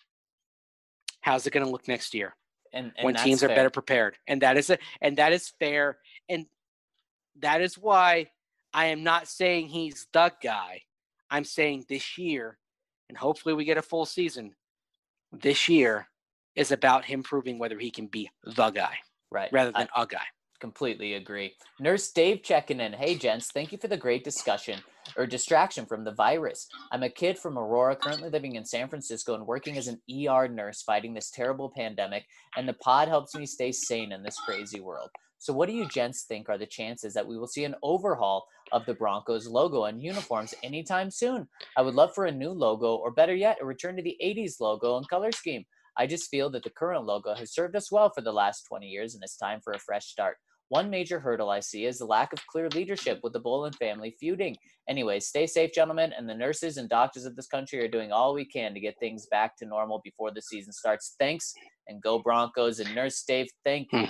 How's it going to look next year? And when teams are better prepared? And that is fair. And that is why I am not saying he's the guy. I'm saying this year, and hopefully we get a full season, this year is about him proving whether he can be the guy, right, rather than a guy. Completely agree. Nurse Dave checking in. Hey, gents, thank you for the great discussion or distraction from the virus. I'm a kid from Aurora, currently living in San Francisco and working as an ER nurse fighting this terrible pandemic, and the pod helps me stay sane in this crazy world. So, what do you gents think are the chances that we will see an overhaul of the Broncos logo and uniforms anytime soon? I would love for a new logo, or better yet, a return to the 80s logo and color scheme. I just feel that the current logo has served us well for the last 20 years, and it's time for a fresh start. One major hurdle I see is the lack of clear leadership with the Bolin family feuding. Anyways, stay safe, gentlemen, and the nurses and doctors of this country are doing all we can to get things back to normal before the season starts. Thanks, and go Broncos. And Nurse Dave, thank you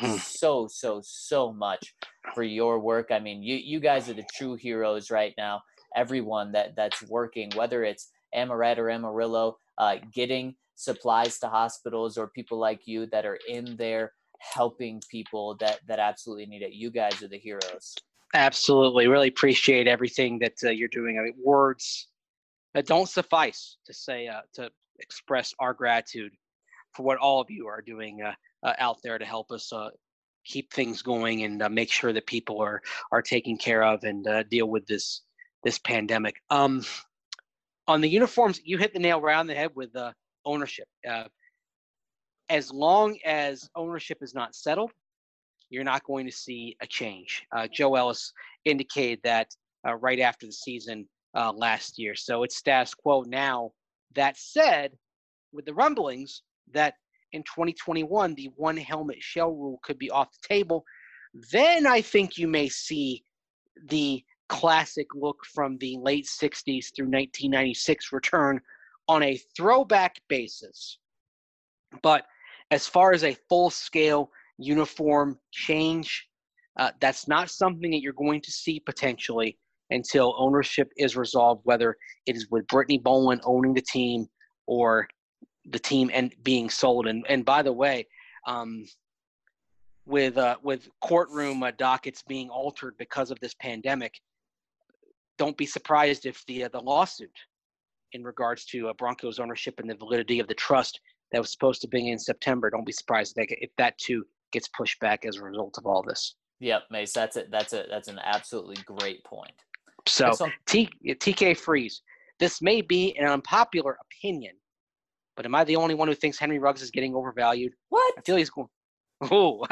so much for your work. I mean, you guys are the true heroes right now. Everyone that's working, whether it's Amaret or Amarillo, getting supplies to hospitals, or people like you that are in there helping people that absolutely need it. You guys are the heroes. Absolutely. Really appreciate everything that you're doing. I mean, words that don't suffice to say, to express our gratitude for what all of you are doing out there to help us keep things going and make sure that people are taken care of and deal with this pandemic. On the uniforms, you hit the nail right on the head with ownership. As long as ownership is not settled, you're not going to see a change. Joe Ellis indicated that right after the season last year. So it's status quo now. That said, with the rumblings that in 2021, the one helmet shell rule could be off the table, then I think you may see the classic look from the late 60s through 1996 return on a throwback basis. But as far as a full-scale uniform change, that's not something that you're going to see potentially until ownership is resolved, whether it is with Brittany Bolin owning the team or the team and being sold. And by the way, with courtroom dockets being altered because of this pandemic, don't be surprised if the lawsuit in regards to Broncos ownership and the validity of the trust that was supposed to be in September, don't be surprised if that too gets pushed back as a result of all this. Yep, Mace, that's an absolutely great point. So TK Freeze, this may be an unpopular opinion, but am I the only one who thinks Henry Ruggs is getting overvalued? What? I feel he's going. Oh,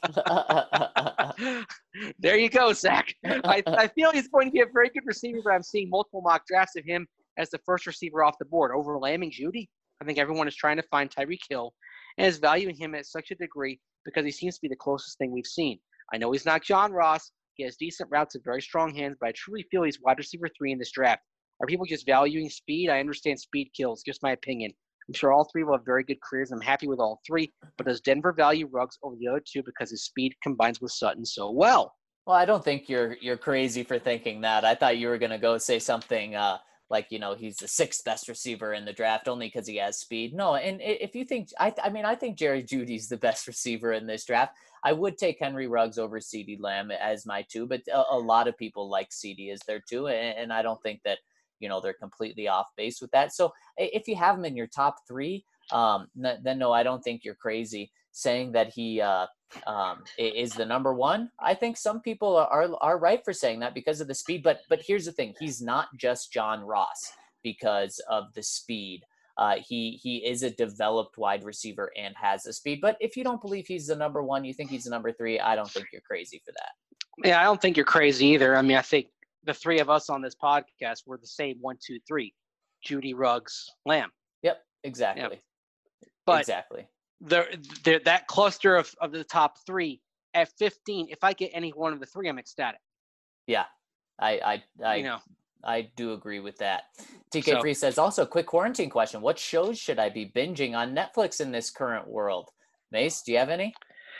there you go, Zach. I feel he's going to be a very good receiver, but I'm seeing multiple mock drafts of him as the first receiver off the board over Lamb Judy. I think everyone is trying to find Tyreek Hill and is valuing him at such a degree because he seems to be the closest thing we've seen. I know he's not John Ross. He has decent routes and very strong hands, but I truly feel he's wide receiver 3 in this draft. Are people just valuing speed? I understand speed kills. Just my opinion. I'm sure all three will have very good careers. I'm happy with all three, but does Denver value Ruggs over the other two because his speed combines with Sutton so well? Well, I don't think you're crazy for thinking that. I thought you were going to go say something like, he's the 6th best receiver in the draft only because he has speed. No, and if you think – I think Jerry Jeudy's the best receiver in this draft. I would take Henry Ruggs over CeeDee Lamb as my 2, but a lot of people like CeeDee as their 2, and I don't think that – they're completely off base with that. So if you have him in your top 3, then no, I don't think you're crazy saying that he is the number 1. I think some people are right for saying that because of the speed. But here's the thing: he's not just John Ross because of the speed. He is a developed wide receiver and has the speed. But if you don't believe he's the number 1, you think he's the number 3. I don't think you're crazy for that. Yeah, I don't think you're crazy either. I mean, I think the 3 of us on this podcast were the same 1, 2, 3: Jeudy, Ruggs, Lamb. Yep, exactly. Yep. But exactly. That cluster of the top 3 at 15. If I get any one of the 3, I'm ecstatic. Yeah, I do agree with that. TK Free says also, quick quarantine question: what shows should I be binging on Netflix in this current world? Mace, do you have any?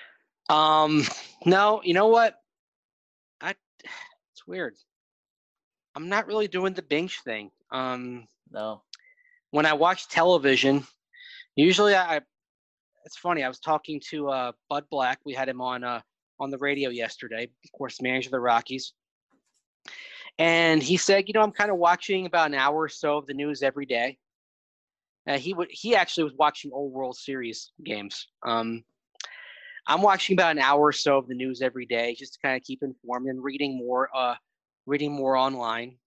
No. You know what? It's weird. I'm not really doing the binge thing. No. When I watch television, usually it's funny. I was talking to Bud Black. We had him on the radio yesterday, of course, manager of the Rockies. And he said, I'm kind of watching about an hour or so of the news every day. He actually was watching old World Series games. I'm watching about an hour or so of the news every day just to kind of keep informed and reading more online.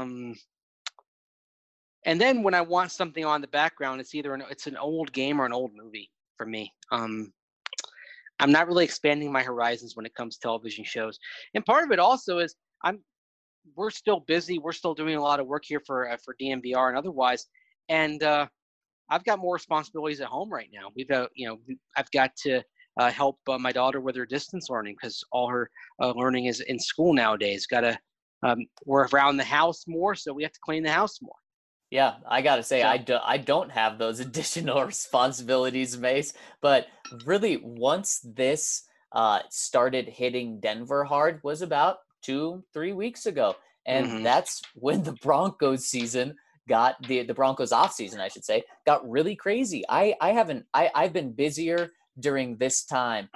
And then when I want something on the background, it's either it's an old game or an old movie for me. I'm not really expanding my horizons when it comes to television shows. And part of it also is we're still busy. We're still doing a lot of work here for DMVR and otherwise. And I've got more responsibilities at home right now. I've got to help my daughter with her distance learning because all her learning is in school nowadays. We're around the house more, so we have to clean the house more. Yeah, I gotta say, I don't have those additional responsibilities, Mace. But really, once this started hitting Denver hard was about 2-3 weeks ago, and that's when the Broncos season got the Broncos off season, I should say, got really crazy. I've been busier during this time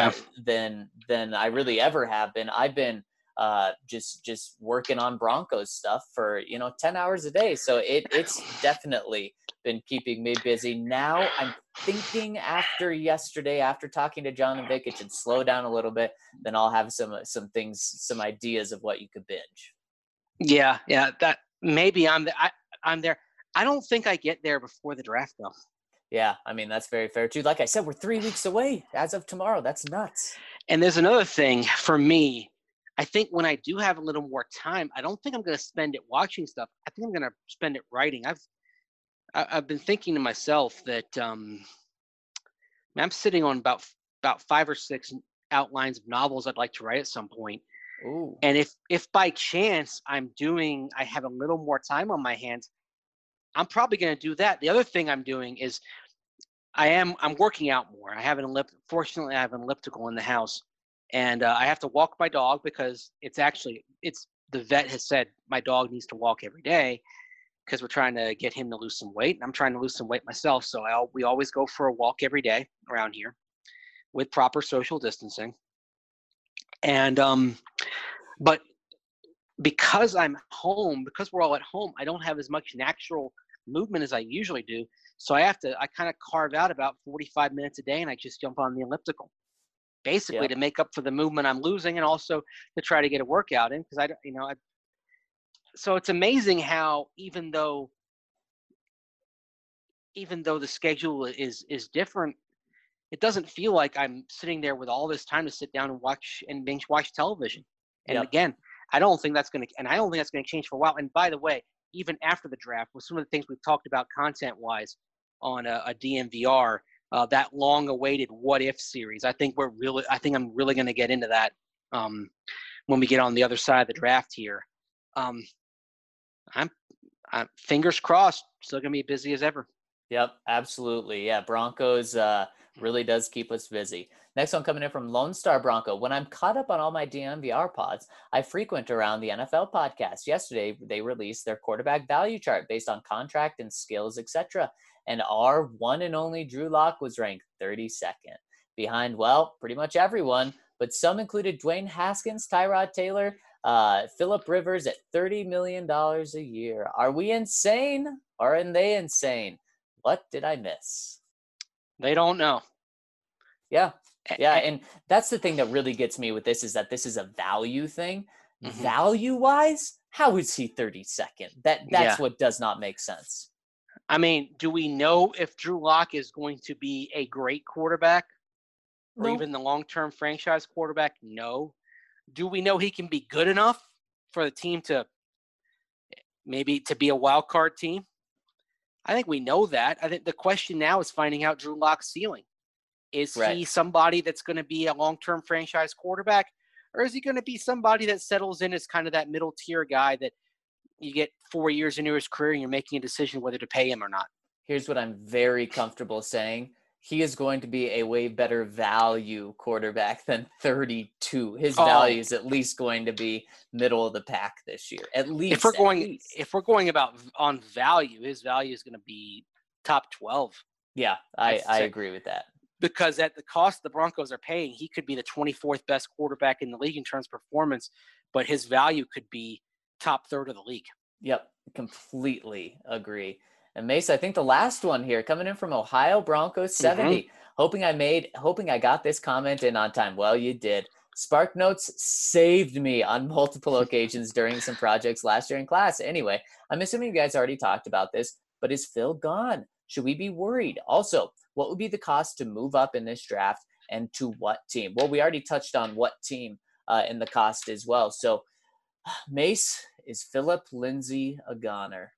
than I really ever have been. I've been just working on Broncos stuff for 10 hours a day, so it's definitely been keeping me busy. Now I'm thinking after yesterday, after talking to John and Vic, it should slow down a little bit, then I'll have some ideas of what you could binge. Yeah, that maybe I'm there. I don't think I get there before the draft though. Yeah, I mean, that's very fair too. Like I said, we're 3 weeks away as of tomorrow. That's nuts. And there's another thing for me. I think when I do have a little more time, I don't think I'm going to spend it watching stuff. I think I'm going to spend it writing. I've been thinking to myself that I'm sitting on about 5 or 6 outlines of novels I'd like to write at some point. Ooh. And if by chance I have a little more time on my hands, I'm probably going to do that. The other thing I'm doing is I'm working out more. Fortunately, I have an elliptical in the house, and I have to walk my dog because the vet has said my dog needs to walk every day because we're trying to get him to lose some weight, and I'm trying to lose some weight myself. So we always go for a walk every day around here with proper social distancing. And but because I'm home, because we're all at home, I don't have as much natural movement as I usually do. So I kind of carve out about 45 minutes a day, and I just jump on the elliptical, basically to make up for the movement I'm losing, and also to try to get a workout in. Because so it's amazing how even though the schedule is different, it doesn't feel like I'm sitting there with all this time to sit down and watch and binge watch television. And again, I don't think that's going to change for a while. And by the way, even after the draft, with some of the things we've talked about content-wise on a DMVR, that long-awaited "What If" series, I think I'm really going to get into that when we get on the other side of the draft here. I'm fingers crossed, still going to be busy as ever. Yep, absolutely. Yeah, Broncos really does keep us busy. Next one coming in from Lone Star Bronco. When I'm caught up on all my DMVR pods, I frequent around the NFL podcast. Yesterday, they released their quarterback value chart based on contract and skills, etc. And our one and only Drew Lock was ranked 32nd, behind, pretty much everyone, but some included Dwayne Haskins, Tyrod Taylor, Phillip Rivers at $30 million a year. Are we insane? Or are they insane? What did I miss? They don't know. Yeah. And that's the thing that really gets me with this is that this is a value thing. Mm-hmm. Value-wise, how is he 32nd? That's what does not make sense. I mean, do we know if Drew Lock is going to be a great quarterback or even the long-term franchise quarterback? No. Do we know he can be good enough for the team to be a wild card team? I think we know that. I think the question now is finding out Drew Lock's ceiling. Is he somebody that's going to be a long-term franchise quarterback, or is he going to be somebody that settles in as kind of that middle-tier guy that you get 4 years into his career and you're making a decision whether to pay him or not? Here's what I'm very comfortable saying. He is going to be a way better value quarterback than 32. His value is at least going to be middle of the pack this year. At least. If we're going about on value, his value is going to be top 12. Yeah, I agree with that. Because at the cost the Broncos are paying, he could be the 24th best quarterback in the league in terms of performance, but his value could be top third of the league. Yep, completely agree. And Mace, I think the last one here coming in from Ohio Broncos 70. Hoping I got this comment in on time. Well, you did. SparkNotes saved me on multiple occasions during some projects last year in class. Anyway, I'm assuming you guys already talked about this, but is Phil gone? Should we be worried? Also, what would be the cost to move up in this draft and to what team? Well, we already touched on what team in the cost as well. So, Mace, is Phillip Lindsay a goner?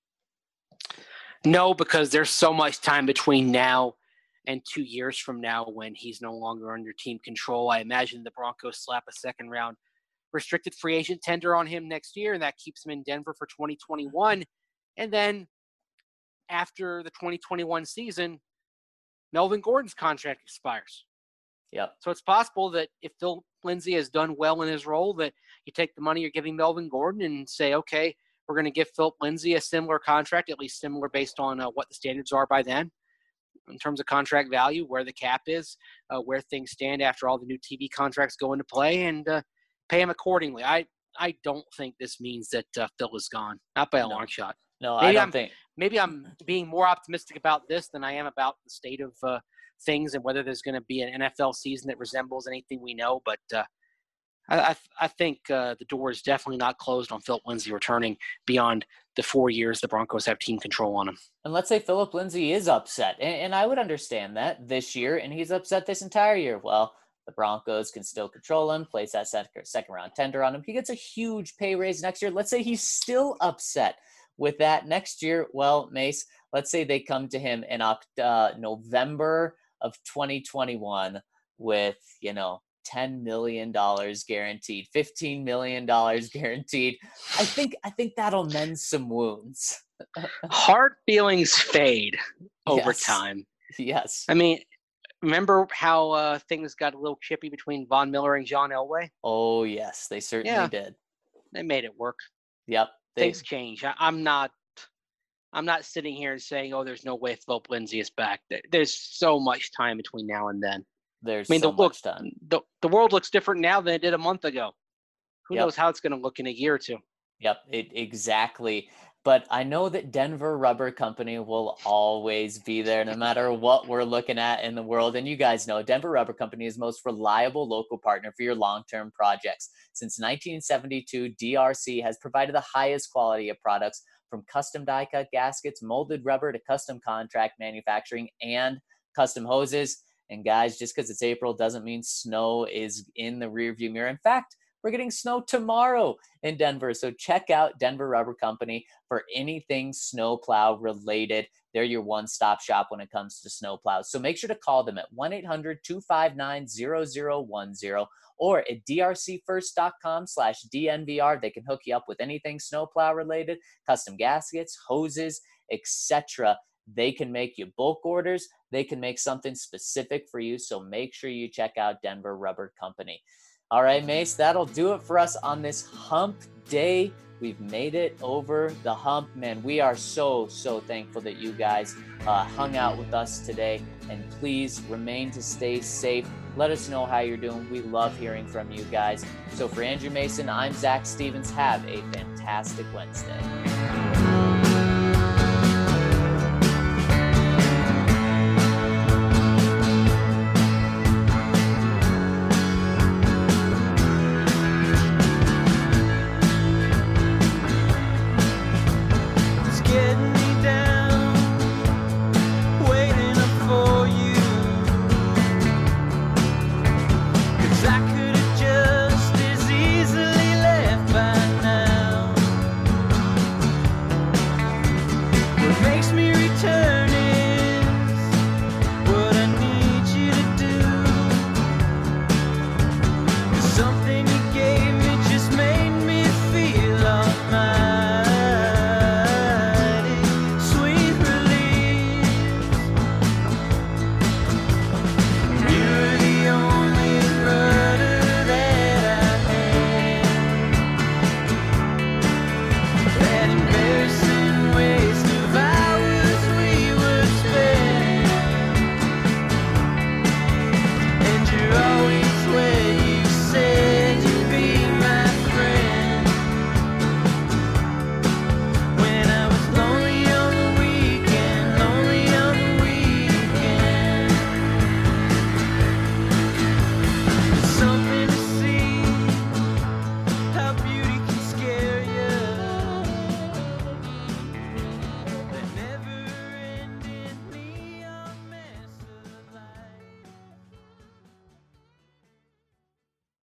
No, because there's so much time between now and 2 years from now when he's no longer under team control. I imagine the Broncos slap a second-round restricted free agent tender on him next year, and that keeps him in Denver for 2021. And then after the 2021 season, Melvin Gordon's contract expires. Yep. So it's possible that if Phil Lindsay has done well in his role, that you take the money you're giving Melvin Gordon and say, okay, we're going to give Philip Lindsay a similar contract, at least similar based on what the standards are by then in terms of contract value, where the cap is, where things stand after all the new TV contracts go into play, and pay him accordingly. I don't think this means that Phil is gone, not by a long shot. No, I don't think. Maybe I'm being more optimistic about this than I am about the state of things and whether there's going to be an NFL season that resembles anything we know. But I think the door is definitely not closed on Philip Lindsay returning beyond the 4 years the Broncos have team control on him. And let's say Philip Lindsay is upset, and I would understand that this year, and he's upset this entire year. Well, the Broncos can still control him, place that second-round tender on him. He gets a huge pay raise next year. Let's say he's still upset with that next year. Well, Mace, let's say they come to him in November of 2021 with, $10 million guaranteed, $15 million guaranteed. I think that'll mend some wounds. Hard feelings fade over time. Yes. I mean, remember how things got a little chippy between Von Miller and John Elway? Oh, yes, they certainly did. They made it work. Yep. Things change. I'm not sitting here and saying, oh, there's no way Philip Lindsay is back. There's so much time between now and then. There's so much time. The world looks different now than it did a month ago. Who knows how it's going to look in a year or two? Yep, exactly. But I know that Denver Rubber Company will always be there no matter what we're looking at in the world. And you guys know Denver Rubber Company is the most reliable local partner for your long-term projects. Since 1972, DRC has provided the highest quality of products from custom die-cut gaskets, molded rubber to custom contract manufacturing and custom hoses. And guys, just because it's April doesn't mean snow is in the rearview mirror. In fact, we're getting snow tomorrow in Denver. So check out Denver Rubber Company for anything snowplow related. They're your one-stop shop when it comes to snowplows. So make sure to call them at 1-800-259-0010 or at drcfirst.com/DNVR. They can hook you up with anything snowplow related, custom gaskets, hoses, etc. They can make you bulk orders. They can make something specific for you. So make sure you check out Denver Rubber Company. All right, Mace, that'll do it for us on this hump day. We've made it over the hump. Man, we are so thankful that you guys hung out with us today. And please remain to stay safe. Let us know how you're doing. We love hearing from you guys. So for Andrew Mason, I'm Zach Stevens. Have a fantastic Wednesday.